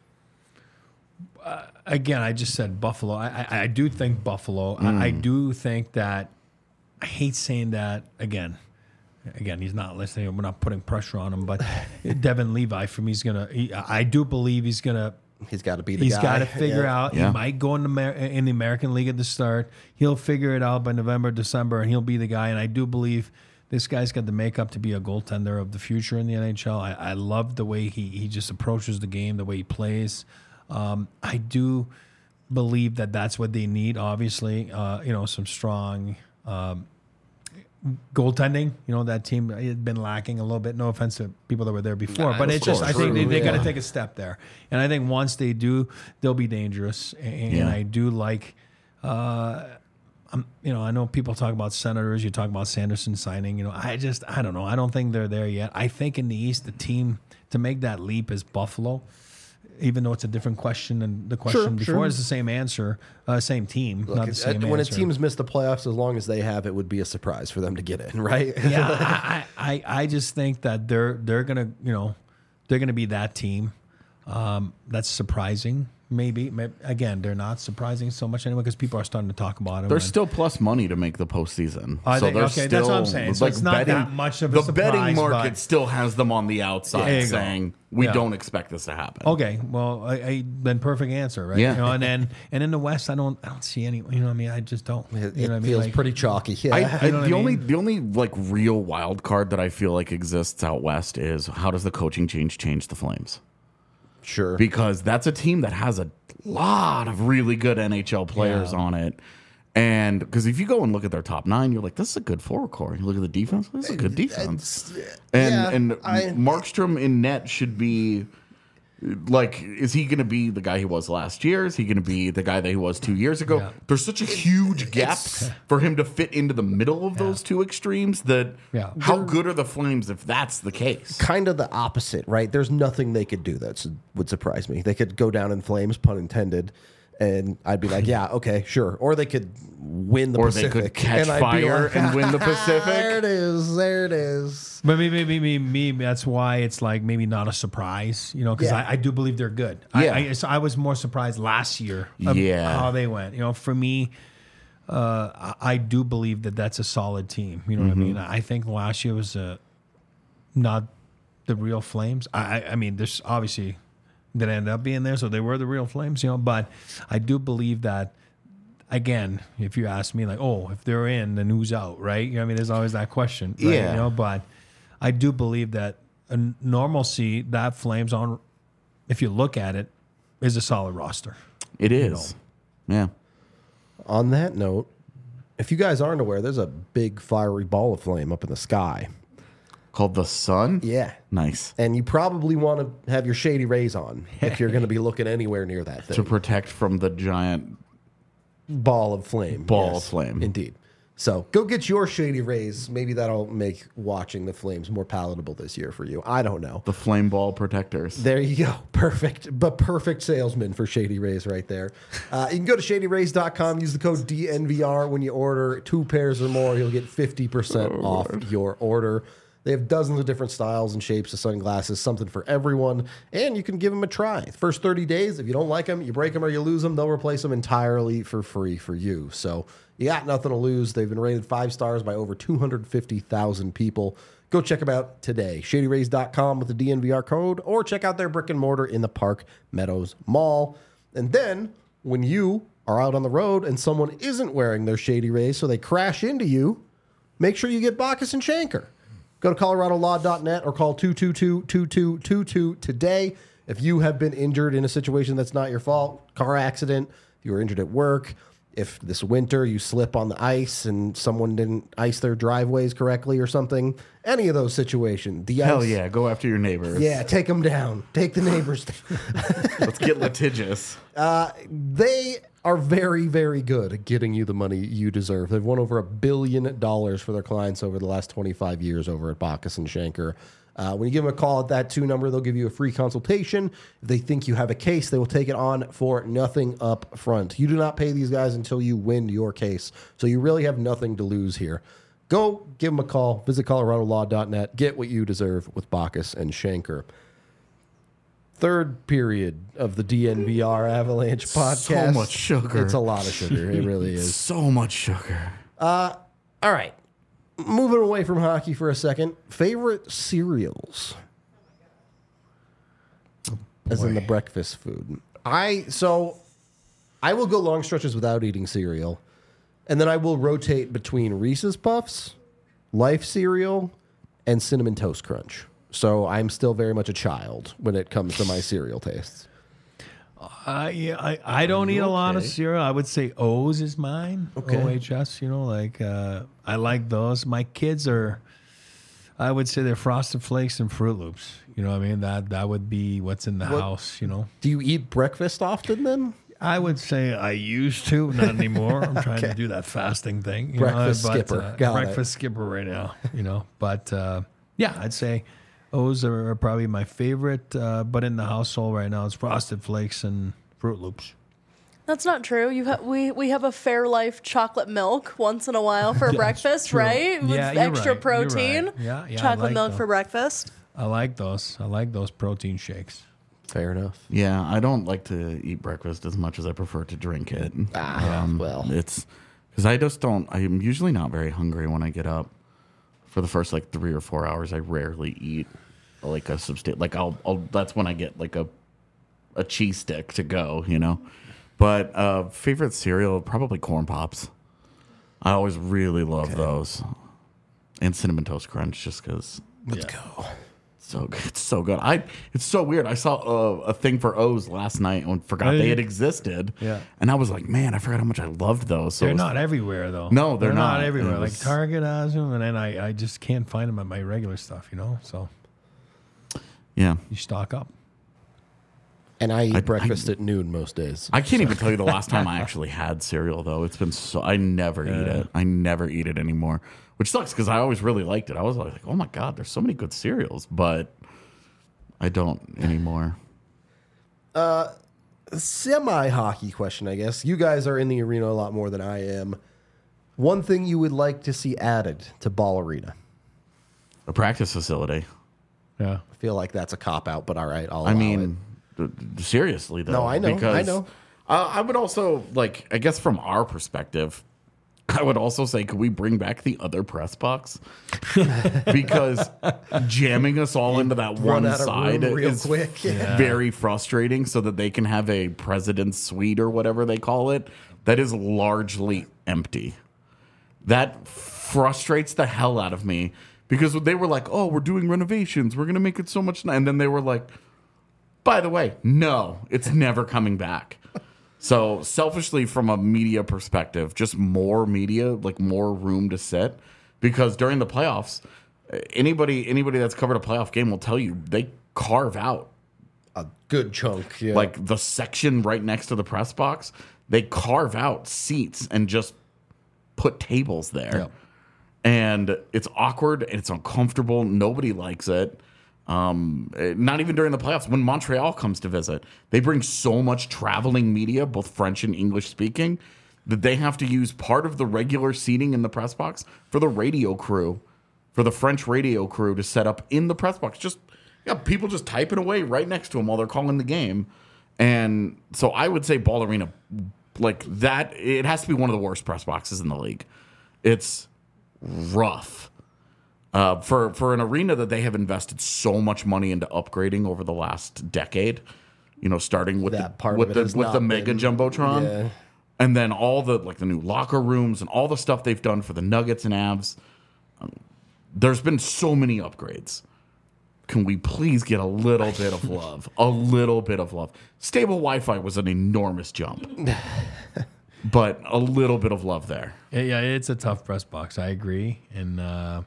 Again, I just said Buffalo. I do think Buffalo. I do think that. I hate saying that again. Again, he's not listening. We're not putting pressure on him, but Devin Levi for me is gonna. I do believe he's gonna. He's got to be the guy. He's got to figure out. Yeah. He might go in the American League at the start. He'll figure it out by November, December, and he'll be the guy. And I do believe this guy's got the makeup to be a goaltender of the future in the NHL. I love the way he just approaches the game, the way he plays. I do believe that that's what they need. Obviously, some strong goaltending. That team had been lacking a little bit. No offense to people that were there before, but it's just I think they got to take a step there. And I think once they do, they'll be dangerous. And I do like. I know people talk about Senators. You talk about Sanderson signing. I don't know. I don't think they're there yet. I think in the East, the team to make that leap is Buffalo. Even though it's a different question than the question before, it's the same answer, same team, Look, not the same when answer. a team's missed the playoffs, as long as they have, it would be a surprise for them to get in, right? Yeah, I just think that they're gonna be that team. That's surprising. Maybe again, they're not surprising so much anyway because people are starting to talk about them. There's still plus money to make the postseason. That's what I'm saying. So it's not that much of a surprise. The betting market still has them on the outside saying we don't expect this to happen. Okay, well, then perfect answer, right? Yeah. And in the West, I don't see any. I just don't. It feels pretty chalky. Yeah. The only like real wild card that I feel like exists out West is how does the coaching change the Flames? Sure. Because that's a team that has a lot of really good NHL players on it. And because if you go and look at their top 9, you're like, this is a good forward core. You look at the defense, this is a good defense. And Markstrom in net should be like, is he going to be the guy he was last year? Is he going to be the guy that he was 2 years ago? Yeah. There's such a huge gap for him to fit into the middle of those two extremes that how good are the Flames if that's the case? Kind of the opposite, right? There's nothing they could do that would surprise me. They could go down in flames, pun intended, and I'd be like, yeah, okay, sure. Or they could win the Pacific. Or they could catch fire and win the Pacific. There it is. But maybe that's why it's like maybe not a surprise, because I do believe they're good. Yeah. I was more surprised last year of how they went. For me, I do believe that that's a solid team. You know what I mean? I think last year was not the real Flames. I mean, there's obviously that ended up being there, so they were the real Flames, but I do believe that, again, if you ask me, like, if they're in, then who's out, right? There's always that question, right? Yeah. But I do believe that a normalcy, that Flames on, if you look at it, is a solid roster. It is. Yeah. On that note, if you guys aren't aware, there's a big fiery ball of flame up in the sky. Called the Sun? Yeah. Nice. And you probably want to have your Shady Rays on if you're going to be looking anywhere near that thing. To protect from the giant Ball of flame. Ball of flame. Indeed. So go get your Shady Rays. Maybe that'll make watching the flames more palatable this year for you. I don't know. the flame ball protectors. There you go. Perfect. But perfect salesman for Shady Rays right there. You can go to shadyrays.com. Use the code DNVR when you order 2 pairs or more. You'll get 50% off your order. They have dozens of different styles and shapes of sunglasses, something for everyone, and you can give them a try. First 30 days, if you don't like them, you break them or you lose them, they'll replace them entirely for free for you. So you got nothing to lose. They've been rated 5 stars by over 250,000 people. Go check them out today. ShadyRays.com with the DNVR code, or check out their brick and mortar in the Park Meadows Mall. And then when you are out on the road and someone isn't wearing their Shady Rays, so they crash into you, make sure you get Bacchus and Shanker. Go to coloradolaw.net or call 222-2222 today. If you have been injured in a situation that's not your fault, car accident, you were injured at work, if this winter you slip on the ice and someone didn't ice their driveways correctly or something, any of those situations. Hell ice, yeah, go after your neighbors. Yeah, take them down. Take the neighbors down. Let's get litigious. They are very, very good at getting you the money you deserve. They've won over $1 billion for their clients over the last 25 years over at Bacchus and Shanker. When you give them a call at that 2 number, they'll give you a free consultation. If they think you have a case, they will take it on for nothing up front. You do not pay these guys until you win your case. So you really have nothing to lose here. Go give them a call. Visit coloradolaw.net. Get what you deserve with Bacchus and Shanker. Third period of the DNVR Avalanche podcast. So much sugar. It's a lot of sugar. It really is. So much sugar. All right. Moving away from hockey for a second. Favorite cereals? As in the breakfast food. I will go long stretches without eating cereal. And then I will rotate between Reese's Puffs, Life cereal, and Cinnamon Toast Crunch. So I'm still very much a child when it comes to my cereal tastes. I don't eat a lot of cereal. I would say O's is mine. Okay. OHS, I like those. My kids are, I would say they're Frosted Flakes and Fruit Loops. You know what I mean? That would be what's in the house, Do you eat breakfast often then? I would say I used to, not anymore. I'm trying to do that fasting thing. Breakfast skipper. Got breakfast skipper right now, But yeah, I'd say O's are probably my favorite. But in the household right now, it's Frosted Flakes and Fruit Loops. That's not true. We have a Fairlife chocolate milk once in a while for breakfast, true. right? With Yeah, you're extra right. protein. You're right. Yeah, I chocolate like milk those. for breakfast. I like those. I like those protein shakes. Fair enough. Yeah, I don't like to eat breakfast as much as I prefer to drink it. Well. It's because I just don't. I'm usually not very hungry when I get up. For the first 3 or 4 hours, I rarely eat like a substantial. I'll that's when I get like a cheese stick to go, But favorite cereal, probably Corn Pops. I always really love those, and Cinnamon Toast Crunch, just because. Let's go. So good. It's so good. It's so weird. I saw a thing for O's last night and forgot they had existed. Yeah. And I was like, man, I forgot how much I loved those. So They're not everywhere though. No, they're not not. everywhere. It Like was- Target has them, and then I just can't find them at my regular stuff. So Yeah. you stock up. And I eat breakfast at noon most days. I can't even tell you the last time I actually had cereal though. It's been so I never eat it. I never eat it anymore. Which sucks because I always really liked it. I was like, oh my God, there's so many good cereals, but I don't anymore. Semi-hockey question, I guess. You guys are in the arena a lot more than I am. One thing you would like to see added to Ball Arena? A practice facility. Yeah. I feel like that's a cop-out, but all right, I'll I allow mean, seriously though. No, I know, Because, I know. I would also I guess from our perspective, I would also say, could we bring back the other press box? Because jamming us all into that run one out of side room real is quick. very frustrating. So that they can have a president's suite or whatever they call it that is largely empty. That frustrates the hell out of me because they were like, "Oh, we're doing renovations. We're gonna make it so much," and then they were like, "By the way, no, it's never coming back." So selfishly, from a media perspective, just more media, more room to sit. Because during the playoffs, Anybody that's covered a playoff game will tell you they carve out A good chunk. Yeah. like the section right next to the press box. They carve out seats and just put tables there. Yep. And it's awkward and it's uncomfortable. Nobody likes it. Not even during the playoffs. When Montreal comes to visit, they bring so much traveling media, both French and English speaking, that they have to use part of the regular seating in the press box for the radio crew, for the French radio crew to set up in the press box. Just people just typing away right next to them while they're calling the game. And so I would say Ball Arena, like that, it has to be one of the worst press boxes in the league. It's rough. For an arena that they have invested so much money into upgrading over the last decade, starting with That part of it has with the not mega been- jumbotron, yeah. and then all the new locker rooms and all the stuff they've done for the Nuggets and Avs. There's been so many upgrades. Can we please get a little bit of love? A little bit of love. Stable Wi-Fi was an enormous jump, but a little bit of love there. Yeah, it's a tough press box. I agree, and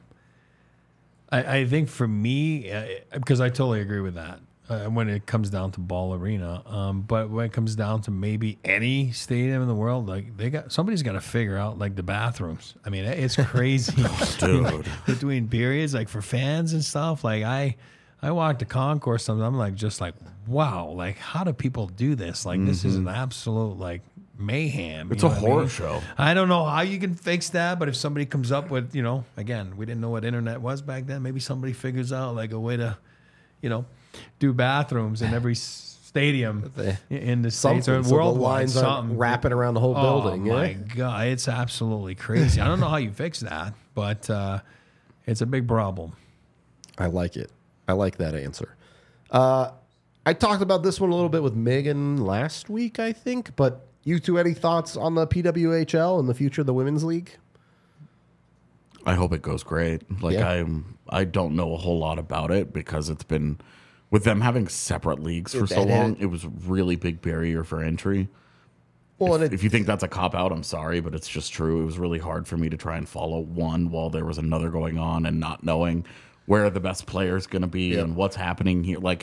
I think for me, because I totally agree with that when it comes down to Ball Arena. But when it comes down to maybe any stadium in the world, like somebody's got to figure out like the bathrooms. I mean, it's crazy, Dude. between periods, like for fans and stuff. Like I walked the concourse, and I'm like, just like, wow, like how do people do this? Like this is an absolute like mayhem. It's you a know what I horror mean? show. I don't know how you can fix that, but if somebody comes up with, again, we didn't know what internet was back then. Maybe somebody figures out like a way to, do bathrooms in every stadium in the States Something, or so the worldwide. lines aren't Something wrapping around the whole building. Oh my Yeah. God, it's absolutely crazy. I don't know how you fix that, but it's a big problem. I like it. I like that answer. I talked about this one a little bit with Megan last week, I think, but you two, any thoughts on the PWHL and the future of the women's league? I hope it goes great. Like Yeah. I don't know a whole lot about it because it's been with them having separate leagues for so And long. It was a really big barrier for entry. Well, and If you think that's a cop out, I'm sorry, but it's just true. It was really hard for me to try and follow one while there was another going on and not knowing where the best player is going to be and what's happening here. Like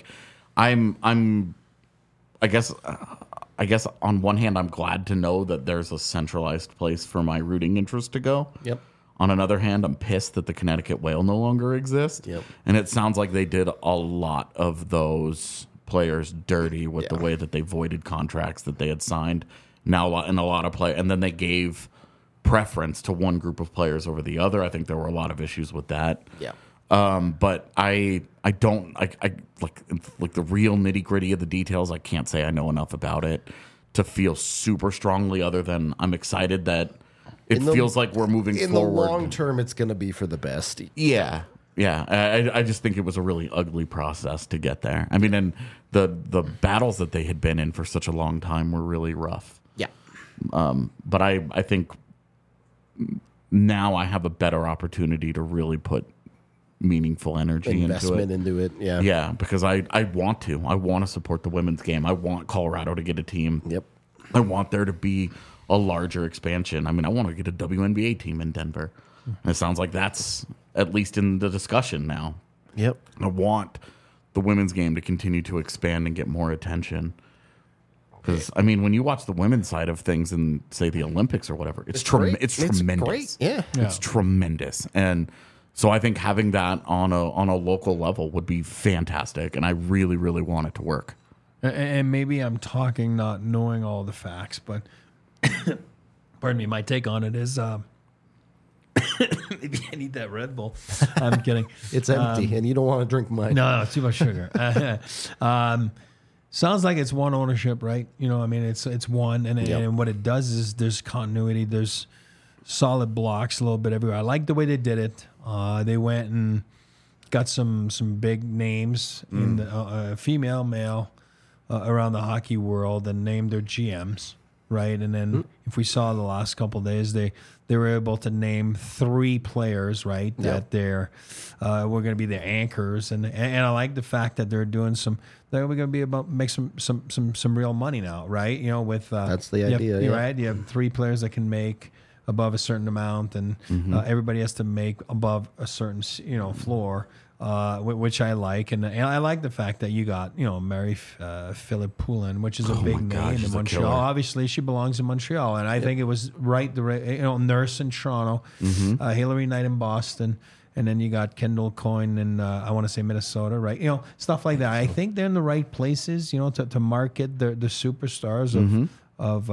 I guess on one hand, I'm glad to know that there's a centralized place for my rooting interest to go. Yep. On another hand, I'm pissed that the Connecticut Whale no longer exists. Yep. And it sounds like they did a lot of those players dirty with the way that they voided contracts that they had signed. Now, in a lot of play, and then they gave preference to one group of players over the other. I think there were a lot of issues with that. Yeah. But I don't like the real nitty gritty of the details. I can't say I know enough about it to feel super strongly. Other than I'm excited that it feels like we're moving In forward. the long term, it's going to be for the best. Yeah. I just think it was a really ugly process to get there. I mean, and the battles that they had been in for such a long time were really rough. Yeah. But I think now I have a better opportunity to really put meaningful energy Investment into it. into it. Yeah. Yeah, because I want to. I want to support the women's game. I want Colorado to get a team. Yep. I want there to be a larger expansion. I mean, I want to get a WNBA team in Denver. And it sounds like that's at least in the discussion now. Yep. I want the women's game to continue to expand and get more attention. Because, I mean, when you watch the women's side of things in, say, the Olympics or whatever, it's great. it's tremendous. Great. Yeah. It's tremendous. And so I think having that on a local level would be fantastic. And I really, really want it to work. And maybe I'm talking not knowing all the facts, but pardon me, my take on it is maybe I need that Red Bull. I'm kidding. It's empty, and you don't want to drink mine. No, too much sugar. Sounds like it's one ownership, right? I mean, it's one, and what it does is there's continuity. There's solid blocks a little bit everywhere. I like the way they did it. They went and got some big names in the female, male around the hockey world and named their GMs, right? And then if we saw the last couple of days, they were able to name 3 players, right? That they're we're going to be the anchors, and I like the fact that they're doing they're going to be about make some real money now, right? With That's the you have- idea, you're yeah. right? You have 3 players that can make above a certain amount, and everybody has to make above a certain floor. Which I like, and I like the fact that you got Mary Philip Poulin, which is a big name in Montreal. Obviously, she belongs in Montreal, and I think it was right. Nurse in Toronto, Hillary Knight in Boston, and then you got Kendall Coyne in I want to say Minnesota, right? Stuff like that. I think they're in the right places, to market the superstars of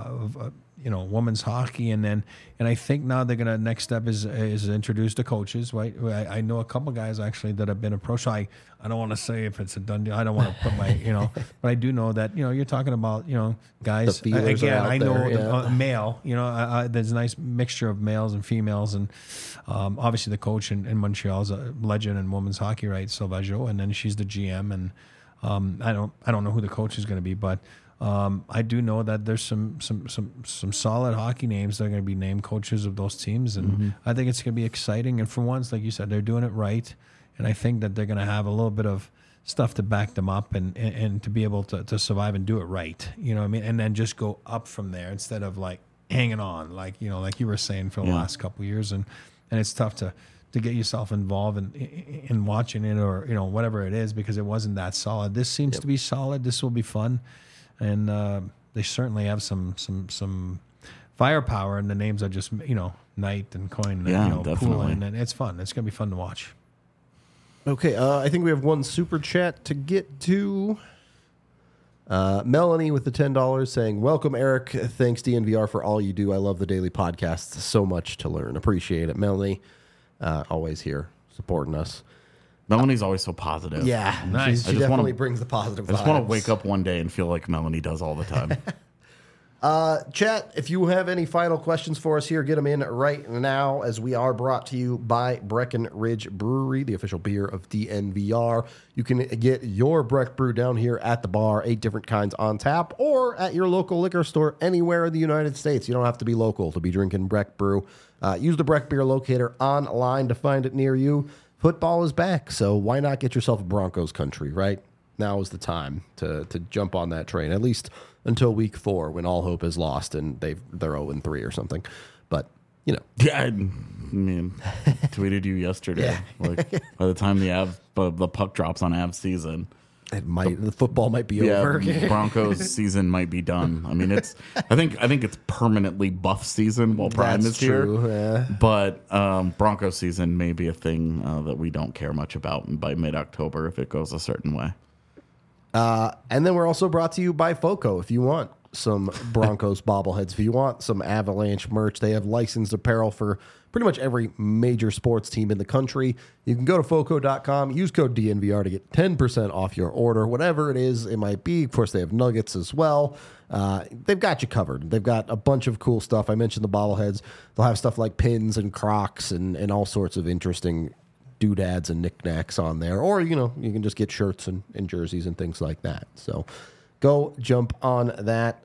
women's hockey, and I think now they're gonna next step is introduce the coaches, right? I know a couple guys actually that have been approached. So I don't want to say if it's a done deal. I don't want to put my but I do know that you're talking about guys. Again, I know the male. There's a nice mixture of males and females, and obviously the coach in Montreal is a legend in women's hockey, right? Sauvageau, and then she's the GM, and I don't know who the coach is going to be, but. I do know that there's some solid hockey names that are going to be named coaches of those teams, and I think it's going to be exciting. And for once, like you said, they're doing it right, and I think that they're going to have a little bit of stuff to back them up and to be able to survive and do it right. You know what I mean? And then just go up from there instead of like hanging on, like you were saying for the last couple of years, and it's tough to get yourself involved in watching it or whatever it is because it wasn't that solid. This seems to be solid. This will be fun. And they certainly have some firepower, and the names are just Knight and Coyne and Poulin, and it's fun. It's gonna be fun to watch. Okay, I think we have one super chat to get to. Melanie with the $10 saying, "Welcome, Eric. Thanks DNVR for all you do. I love the daily podcast. So much to learn. Appreciate it, Melanie. Always here supporting us." Melanie's always so positive. Yeah, nice. She definitely brings the positive vibes. I just want to wake up one day and feel like Melanie does all the time. Chat, if you have any final questions for us here, get them in right now, as we are brought to you by Breckenridge Brewery, the official beer of DNVR. You can get your Breck Brew down here at the bar, 8 different kinds on tap, or at your local liquor store anywhere in the United States. You don't have to be local to be drinking Breck Brew. Use the Breck Beer Locator online to find it near you. Football is back, so why not get yourself a Broncos country, right? Now is the time to jump on that train, at least until week 4 when all hope is lost and they're 0-3 or something. But, Yeah, I mean, tweeted you yesterday. Like, by the time the puck drops on Avs season, the football might be over. Broncos season might be done. I mean, I think it's permanently buff season while Prime is true, here. Yeah. But Broncos season may be a thing that we don't care much about by mid-October if it goes a certain way. And then we're also brought to you by FOCO. If you want some Broncos bobbleheads, if you want some Avalanche merch, they have licensed apparel for pretty much every major sports team in the country. You can go to FOCO.com, use code DNVR to get 10% off your order, whatever it is it might be. Of course, they have nuggets as well. They've got you covered. They've got a bunch of cool stuff. I mentioned the bobbleheads. They'll have stuff like pins and Crocs and all sorts of interesting doodads and knickknacks on there. Or, you can just get shirts and jerseys and things like that. So go jump on that.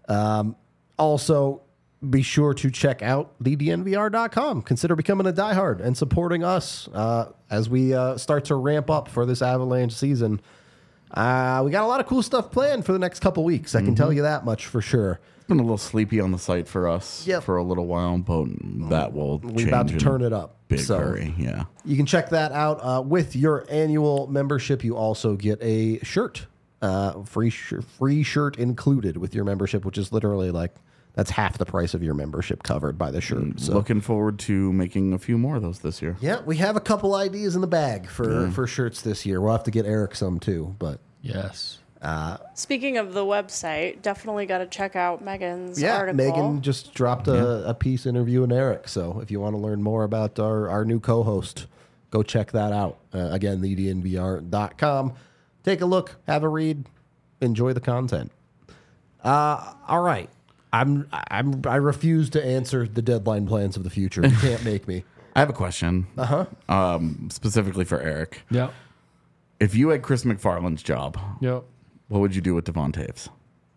Also, be sure to check out thednvr.com. Consider becoming a diehard and supporting us as we start to ramp up for this Avalanche season. We got a lot of cool stuff planned for the next couple weeks. I can tell you that much for sure. It's been a little sleepy on the site for us for a little while, but that will change. We're about to turn it up. Big hurry, yeah. You can check that out. With your annual membership, you also get a shirt. Free shirt included with your membership, which is literally like that's half the price of your membership covered by the shirt. So looking forward to making a few more of those this year. Yeah, we have a couple ideas in the bag for shirts this year. We'll have to get Eric some too, but yes. Speaking of the website, definitely got to check out Megan's article. Megan just dropped a piece interviewing Eric. So if you want to learn more about our new co-host, go check that out. Again, thednvr.com. Take a look, have a read, enjoy the content. All right. I refuse to answer the deadline plans of the future. You can't make me. I have a question. Specifically for Eric. Yep. If you had Chris McFarland's job, Yep. what would you do with Devon Taves?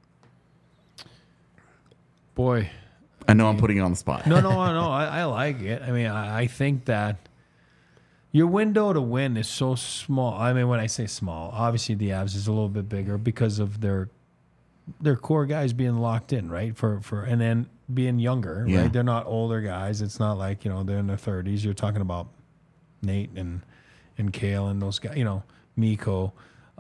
Boy. I know I'm putting you on the spot. No. I like it. I mean, I think that your window to win is so small. I mean, when I say small, obviously the Avs is a little bit bigger because of their core guys being locked in, right? And then being younger, Yeah. right? They're not older guys. It's not like, they're in their 30s. You're talking about Nate and Kale and those guys, Miko.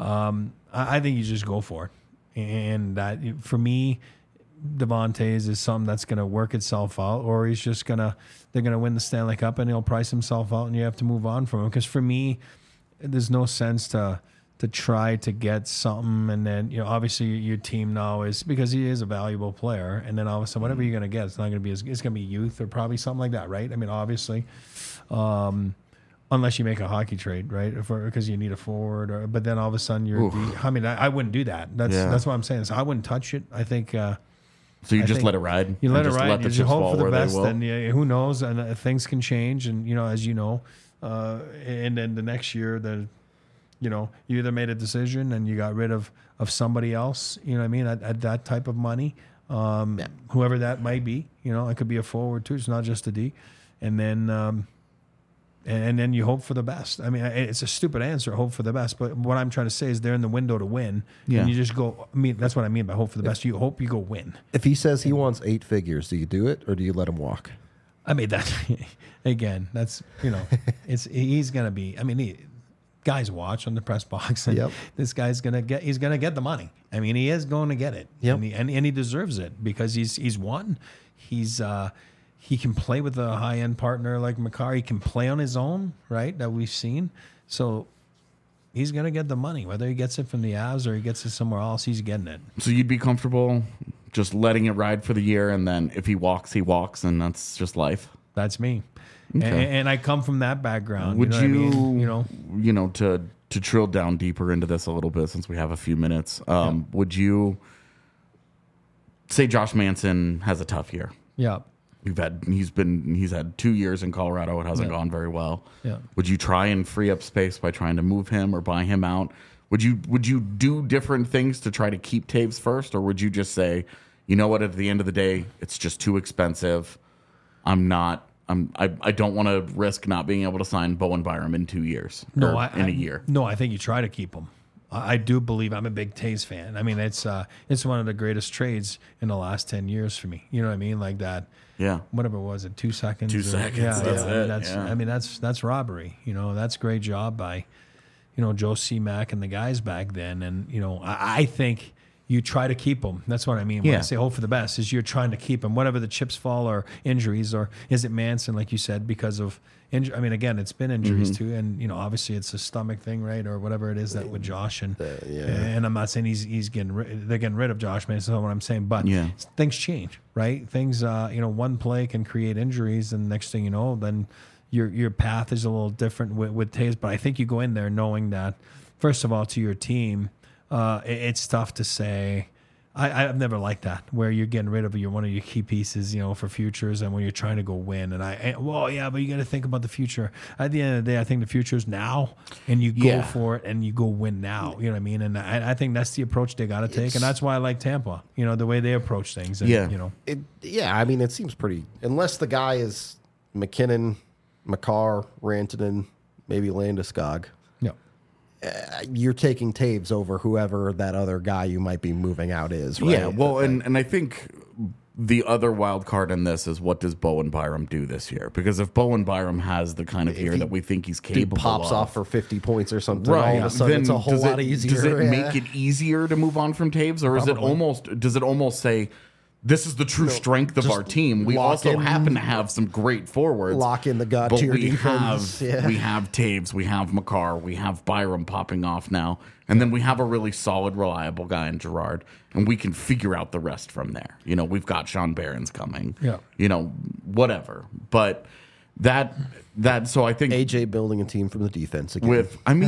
I think you just go for it. And that, for me, Devontae's is something that's going to work itself out, or they're going to win the Stanley Cup and he'll price himself out and you have to move on from him. Because for me, there's no sense to try to get something, and then obviously your team now is, because he is a valuable player, and then all of a sudden whatever you're going to get, it's not going to be it's going to be youth or probably something like that, right? I mean, obviously, unless you make a hockey trade, right? Because you need a forward, but then all of a sudden I wouldn't do that. That's what I'm saying. So I wouldn't touch it. I think. So you just let it ride. You let it ride. Let the You chips hope fall for the where they best, will. and who knows? And things can change, and as you know, and then the next year, you either made a decision and you got rid of somebody else. You know what I mean? At that type of money, whoever that might be. It could be a forward too. It's not just a D, and then. And then you hope for the best. I mean, it's a stupid answer, hope for the best. But what I'm trying to say is they're in the window to win. Yeah. And you just go, that's what I mean by hope for the best. You hope you go win. If he says he wants 8 figures, do you do it or do you let him walk? I mean, that, again, that's, he's going to be, guys watch on the press box. And this guy's going to he's going to get the money. I mean, he is going to get it. Yep. And he deserves it because he's won. He can play with a high-end partner like Makar. He can play on his own, right, that we've seen. So he's going to get the money. Whether he gets it from the Avs or he gets it somewhere else, he's getting it. So you'd be comfortable just letting it ride for the year, and then if he walks, and that's just life? That's me. Okay. And I come from that background. Would you know what I mean? to drill down deeper into this a little bit, since we have a few minutes, would you say Josh Manson has a tough year? Yeah. He's had 2 years in Colorado. It hasn't gone very well. Yeah. Would you try and free up space by trying to move him or buy him out? Would you do different things to try to keep Taves first, or would you just say, you know what, at the end of the day, it's just too expensive. I don't want to risk not being able to sign Bowen Byram in 2 years in a year. No, I think you try to keep him. I do believe I'm a big Taves fan. I mean, it's one of the greatest trades in the last 10 years for me. You know what I mean? Like that. Yeah. Whatever it was, 2 seconds. 2 seconds. Yeah, That's it. I mean, that's robbery. That's a great job by, Joe C-Mac and the guys back then. And, I think you try to keep them. That's what I mean. When I say hope for the best, is you're trying to keep them, whatever the chips fall or injuries, or is it Manson, like you said, because of injury? I mean, again, it's been injuries too. And, obviously it's a stomach thing, right? Or whatever it is that with Josh. And I'm not saying they're getting rid of Josh Manson. That's not what I'm saying. But things change, right? Things, one play can create injuries. And next thing you know, then your path is a little different with Taves. But I think you go in there knowing that, first of all, to your team, it's tough to say. I've never liked that, where you're getting rid of one of your key pieces, for futures, and when you're trying to go win. And but you got to think about the future. At the end of the day, I think the future is now, and you go for it and you go win now. You know what I mean? And I think that's the approach they got to take, and that's why I like Tampa. The way they approach things. And, I mean, it seems pretty. Unless the guy is McKinnon, Makar, Rantanen, maybe Landeskog. You're taking Taves over whoever that other guy you might be moving out is, right? Yeah, well, and I think the other wild card in this is, what does Bowen Byram do this year? Because if Bowen Byram has the kind of year that we think he's capable of, pops off for 50 points or something, right, all of a sudden then it's a whole lot easier. Does it make it easier to move on from Taves, or does it almost say, this is the true strength of our team? We also happen to have some great forwards. Lock in the god-tier defense. We have Taves, we have Makar, we have Byram popping off now, and then we have a really solid, reliable guy in Gerard, and we can figure out the rest from there. We've got Sean Barron's coming. Whatever. But so I think AJ building a team from the defense again.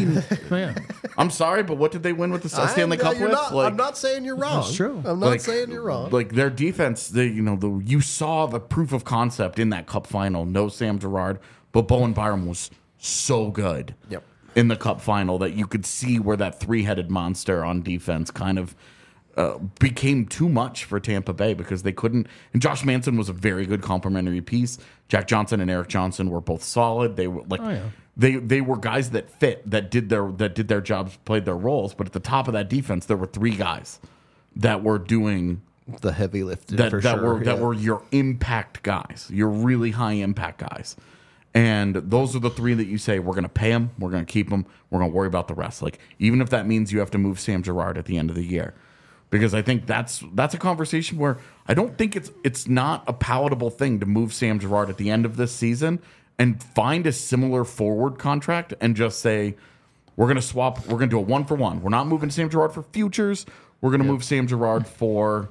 I'm sorry, but what did they win with the Stanley Cup with? I'm not saying you're wrong. That's true. I'm not saying you're wrong. Like their defense, you saw the proof of concept in that Cup final. No Sam Girard, but Bowen Byram was so good in the Cup final that you could see where that three-headed monster on defense kind of became too much for Tampa Bay, because they couldn't. And Josh Manson was a very good complementary piece. Jack Johnson and Eric Johnson were both solid. They were they were guys that fit, that did their jobs, played their roles. But at the top of that defense, there were three guys that were doing the heavy lifting that for that sure. were your impact guys, your really high impact guys. And those are the three that you say, we're going to pay them, we're going to keep them, we're going to worry about the rest. Like, even if that means you have to move Sam Girard at the end of the year. Because I think that's a conversation where I don't think it's not a palatable thing to move Sam Girard at the end of this season and find a similar forward contract and just say, we're going to swap, we're going to do a 1-for-1. We're not moving Sam Girard for futures. We're going to move Sam Girard for...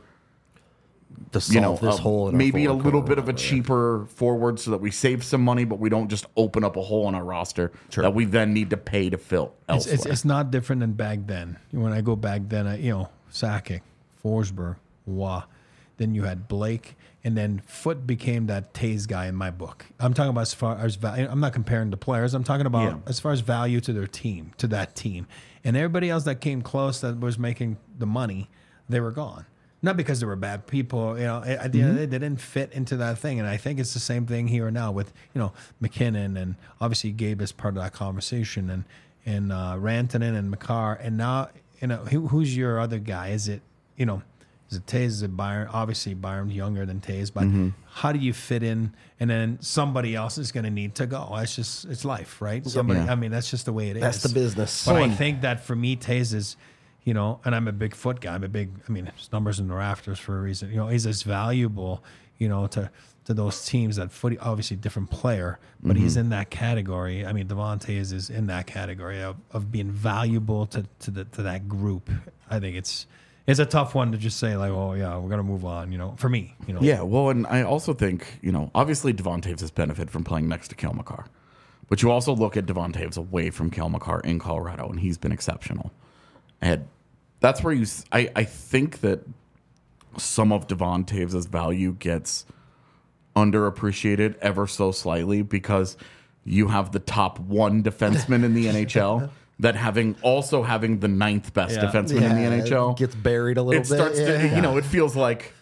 to solve this hole in our maybe a forward little core. bit of a cheaper forward so that we save some money, but we don't just open up a hole in our roster that we then need to pay to fill elsewhere. It's not different than back then. When I go back then, Sakic, Forsberg, Waugh, then you had Blake, and then Foote became that Taves guy in my book. I'm talking about as far as value. I'm not comparing the players. I'm talking about as far as value to their team, to that team. And everybody else that came close that was making the money, they were gone. Not because they were bad people, at the end of the day, they didn't fit into that thing. And I think it's the same thing here now with, McKinnon, and obviously Gabe is part of that conversation, and Rantanen and Makar. And now, who's your other guy? Is it Taves? Is it Byron? Obviously, Byron's younger than Taves, but how do you fit in? And then somebody else is going to need to go. It's life, right? I mean, that's just the way it is. That's the business. But I think that for me, Taves is, and I'm a big Foot guy. His numbers in the rafters for a reason. He's as valuable, to those teams that Footy, obviously different player, but he's in that category. I mean, Devontae is in that category of being valuable to that group. I think it's a tough one to just say like, oh yeah, we're gonna move on. For me, Yeah, well, and I also think obviously Devon Taves has benefited from playing next to Cale Makar, but you also look at Devon Taves away from Cale Makar in Colorado, and he's been exceptional. And that's where I think that some of Devon Taves' value gets underappreciated ever so slightly because you have the top one defenseman in the NHL that having the ninth best defenseman in the NHL gets buried a little bit. It starts to, it feels like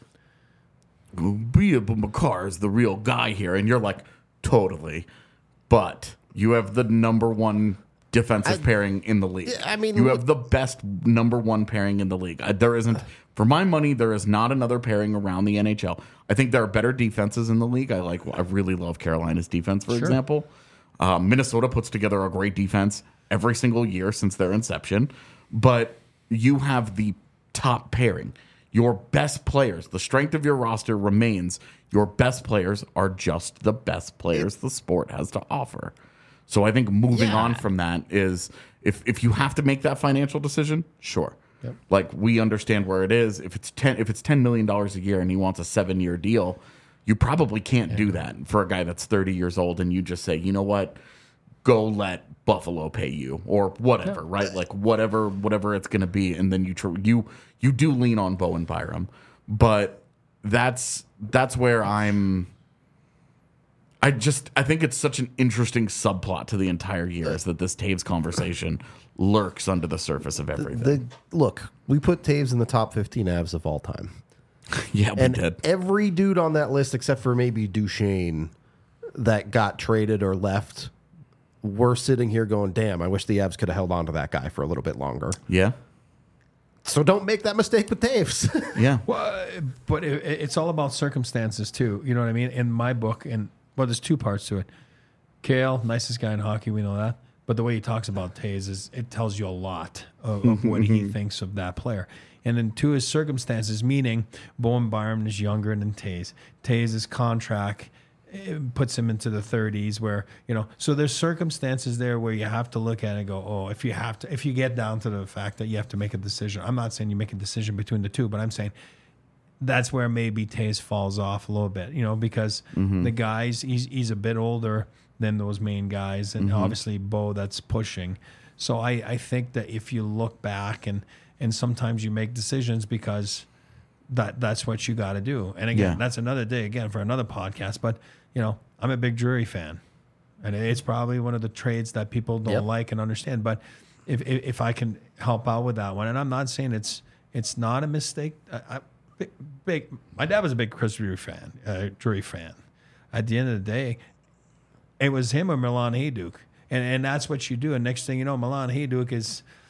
Makar is the real guy here, and you're like, totally, but you have the number one defensive pairing in the league. I mean, you have the best number one pairing in the league. There isn't, for my money, there is not another pairing around the NHL. I think there are better defenses in the league. I really love Carolina's defense, for example. Minnesota puts together a great defense every single year since their inception. But you have the top pairing. Your best players, the strength of your roster remains. Your best players are just the best players the sport has to offer. So I think moving on from that is if you have to make that financial decision, sure. Yep. Like, we understand where it is. If it's $10 million a year and he wants a 7-year deal, you probably can't do that for a guy that's 30 years old, and you just say, you know what, go let Buffalo pay you or whatever, right? Like whatever it's going to be, and then you do lean on Bowen Byram, but that's where I think it's such an interesting subplot to the entire year is that this Taves conversation lurks under the surface of everything. Look, we put Taves in the top 15 Avs of all time. Yeah, we did. Every dude on that list, except for maybe Duchesne, that got traded or left, we're sitting here going, damn, I wish the Avs could have held on to that guy for a little bit longer. Yeah. So don't make that mistake with Taves. Yeah. Well, but it's all about circumstances, too. You know what I mean? In my book, there's two parts to it. Cale, nicest guy in hockey, we know that. But the way he talks about Taves it tells you a lot of what he thinks of that player. And then to his circumstances, meaning Bowen Byram is younger than Taves. Taves' contract puts him into the 30s where, so there's circumstances there where you have to look at it and go, oh, if you get down to the fact that you have to make a decision. I'm not saying you make a decision between the two, but I'm saying that's where maybe Taves falls off a little bit, because the guys, he's a bit older than those main guys, and obviously Bo that's pushing. So I think that if you look back and sometimes you make decisions because that's what you got to do. And again, that's another day again for another podcast. But I'm a big Drury fan, and it's probably one of the trades that people don't like and understand. But if I can help out with that one, and I'm not saying it's not a mistake. My dad was a big Chris Drury fan. At the end of the day, it was him or Milan Hajduk, and that's what you do. And next thing you know, Milan Hajduk is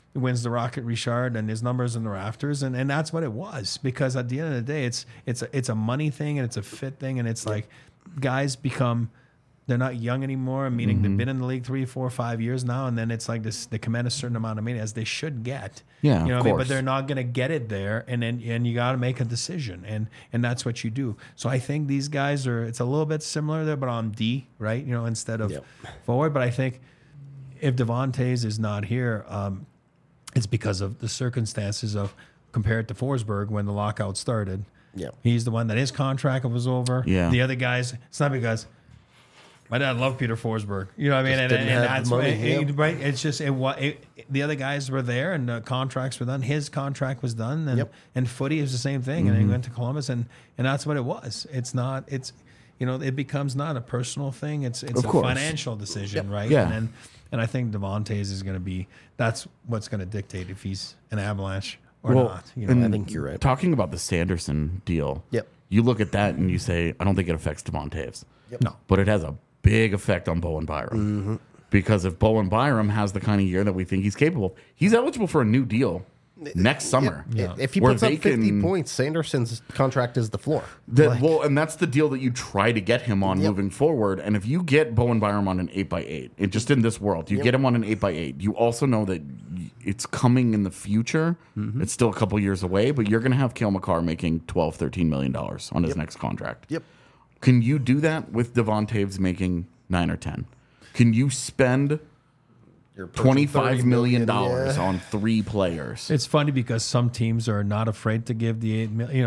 wins the Rocket Richard, and his numbers in the rafters, and that's what it was. Because at the end of the day, it's a money thing and it's a fit thing, and it's like guys become. They're not young anymore, meaning they've been in the league 3, 4, 5 years now, and then it's like this. They command a certain amount of money as they should get. Yeah, you know of what I mean? course. But they're not going to get it there, and you got to make a decision, and that's what you do. So I think these guys are. It's a little bit similar there, but on D, right? You know, instead of forward. But I think if Devontae's is not here, it's because of the circumstances of compared to Forsberg when the lockout started. Yeah, He's the one that his contract was over. Yeah. The other guys, it's not because. My dad loved Peter Forsberg. You know what I mean? Just didn't have that's the money, why, right? It's just the other guys were there and the contracts were done. His contract was done, and Footy is the same thing. And then he went to Columbus, and that's what it was. It's not. It's it becomes not a personal thing. It's a course. financial decision, right? Yeah. And I think Devontae's is going to be. That's what's going to dictate if he's an Avalanche or not. You know, and I think you're right. Talking about the Sanderson deal, Yep. you look at that and you say, I don't think it affects Devontae's. No. But it has a big effect on Bowen Byram. Because if Bowen Byram has the kind of year that we think he's capable of, he's eligible for a new deal next summer. If he Where puts up they 50 can- points, Sanderson's contract is the floor. Well, and that's the deal that you try to get him on moving forward. And if you get Bowen Byram on an 8x8, it just in this world, you get him on an 8x8. You also know that it's coming in the future. It's still a couple years away, but you're going to have Cale Makar making $12, $13 million on his next contract. Yep. Can you do that with Devontae's making 9 or 10? Can you spend You're approaching $25 million yeah. on 3 players? It's funny because some teams are not afraid to give the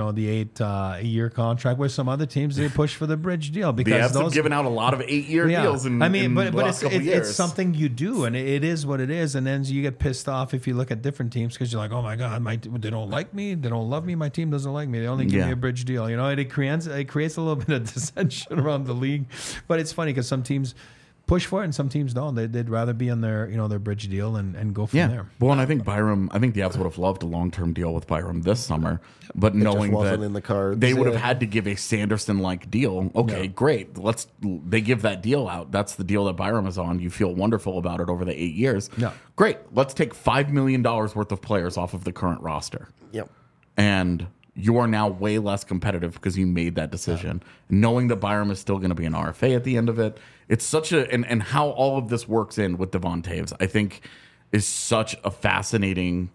8 year contract, where some other teams they push for the bridge deal The because Avs have given out a lot of 8-year Yeah. deals in, I mean, in but the last couple years. it's something you do, and it is what it is. And then you get pissed off if you look at different teams because you're like, oh my god, they don't like me, they don't love me, my team doesn't like me, they only give me a bridge deal. You know, and it creates a little bit of dissension around the league. But it's funny because some teams push for it and some teams don't. They'd rather be on their their bridge deal and go from there. Well, and I think the Avs would have loved a long-term deal with Byram this summer, but knowing wasn't that in the cards, they would have yeah. had to give a Sanderson-like deal. Okay, great. They give that deal out. That's the deal that Byram is on. You feel wonderful about it over the 8 years. Yeah. Great. Let's take $5 million worth of players off of the current roster. Yep. And you are now way less competitive because you made that decision. Knowing that Byram is still going to be an RFA at the end of it. It's such a and how all of this works in with Devontae's, I think, is such a fascinating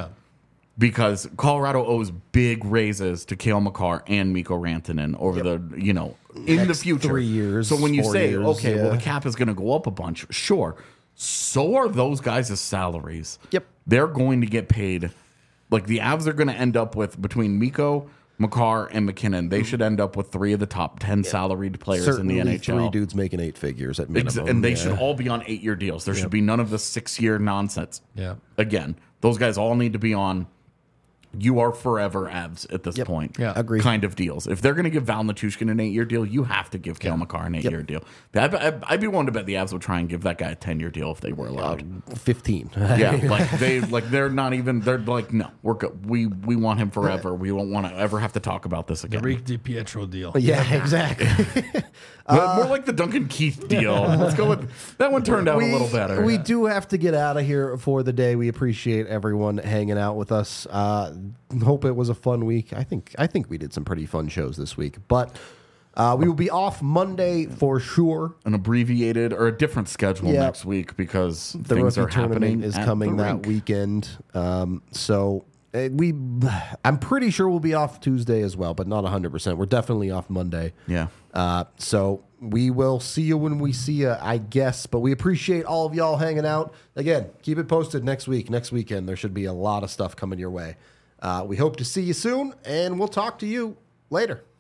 because Colorado owes big raises to Cale Makar and Mikko Rantanen over the in Next the future 3 years. So when you 4 say, years, okay, well yeah. the cap is going to go up a bunch, sure. So are those guys' salaries. Yep. They're going to get paid. Like the Avs are going to end up with between Mikko, Makar, and McKinnon. They should end up with 3 of the top 10 salaried players Certainly in the NHL. 3 dudes making 8 figures at minimum. And they should all be on 8-year deals. There should be none of the 6-year nonsense. Yeah. Again, those guys all need to be on you are forever Avs at this point. Yeah. Agreed. Kind of deals. If they're going to give Val Nichushkin an 8-year deal, you have to give Cale Makar an 8-year deal. I'd be willing to bet the Avs would try and give that guy a 10-year deal if they were allowed. 15. Yeah, they're not even. They're like, no, we're good. We want him forever. We won't want to ever have to talk about this again. Rick DiPietro deal. Yeah, exactly. More like the Duncan Keith deal. Let's go with that one. Turned out a little better. We do have to get out of here for the day. We appreciate everyone hanging out with us. Hope it was a fun week. I think we did some pretty fun shows this week, but we will be off Monday for sure. An abbreviated or a different schedule next week because The things rookie are happening. tournament is coming that weekend. I'm pretty sure we'll be off Tuesday as well, but not 100%. We're definitely off Monday. Yeah. So we will see you when we see you, I guess. But we appreciate all of y'all hanging out. Again, keep it posted next week, next weekend. There should be a lot of stuff coming your way. We hope to see you soon, and we'll talk to you later.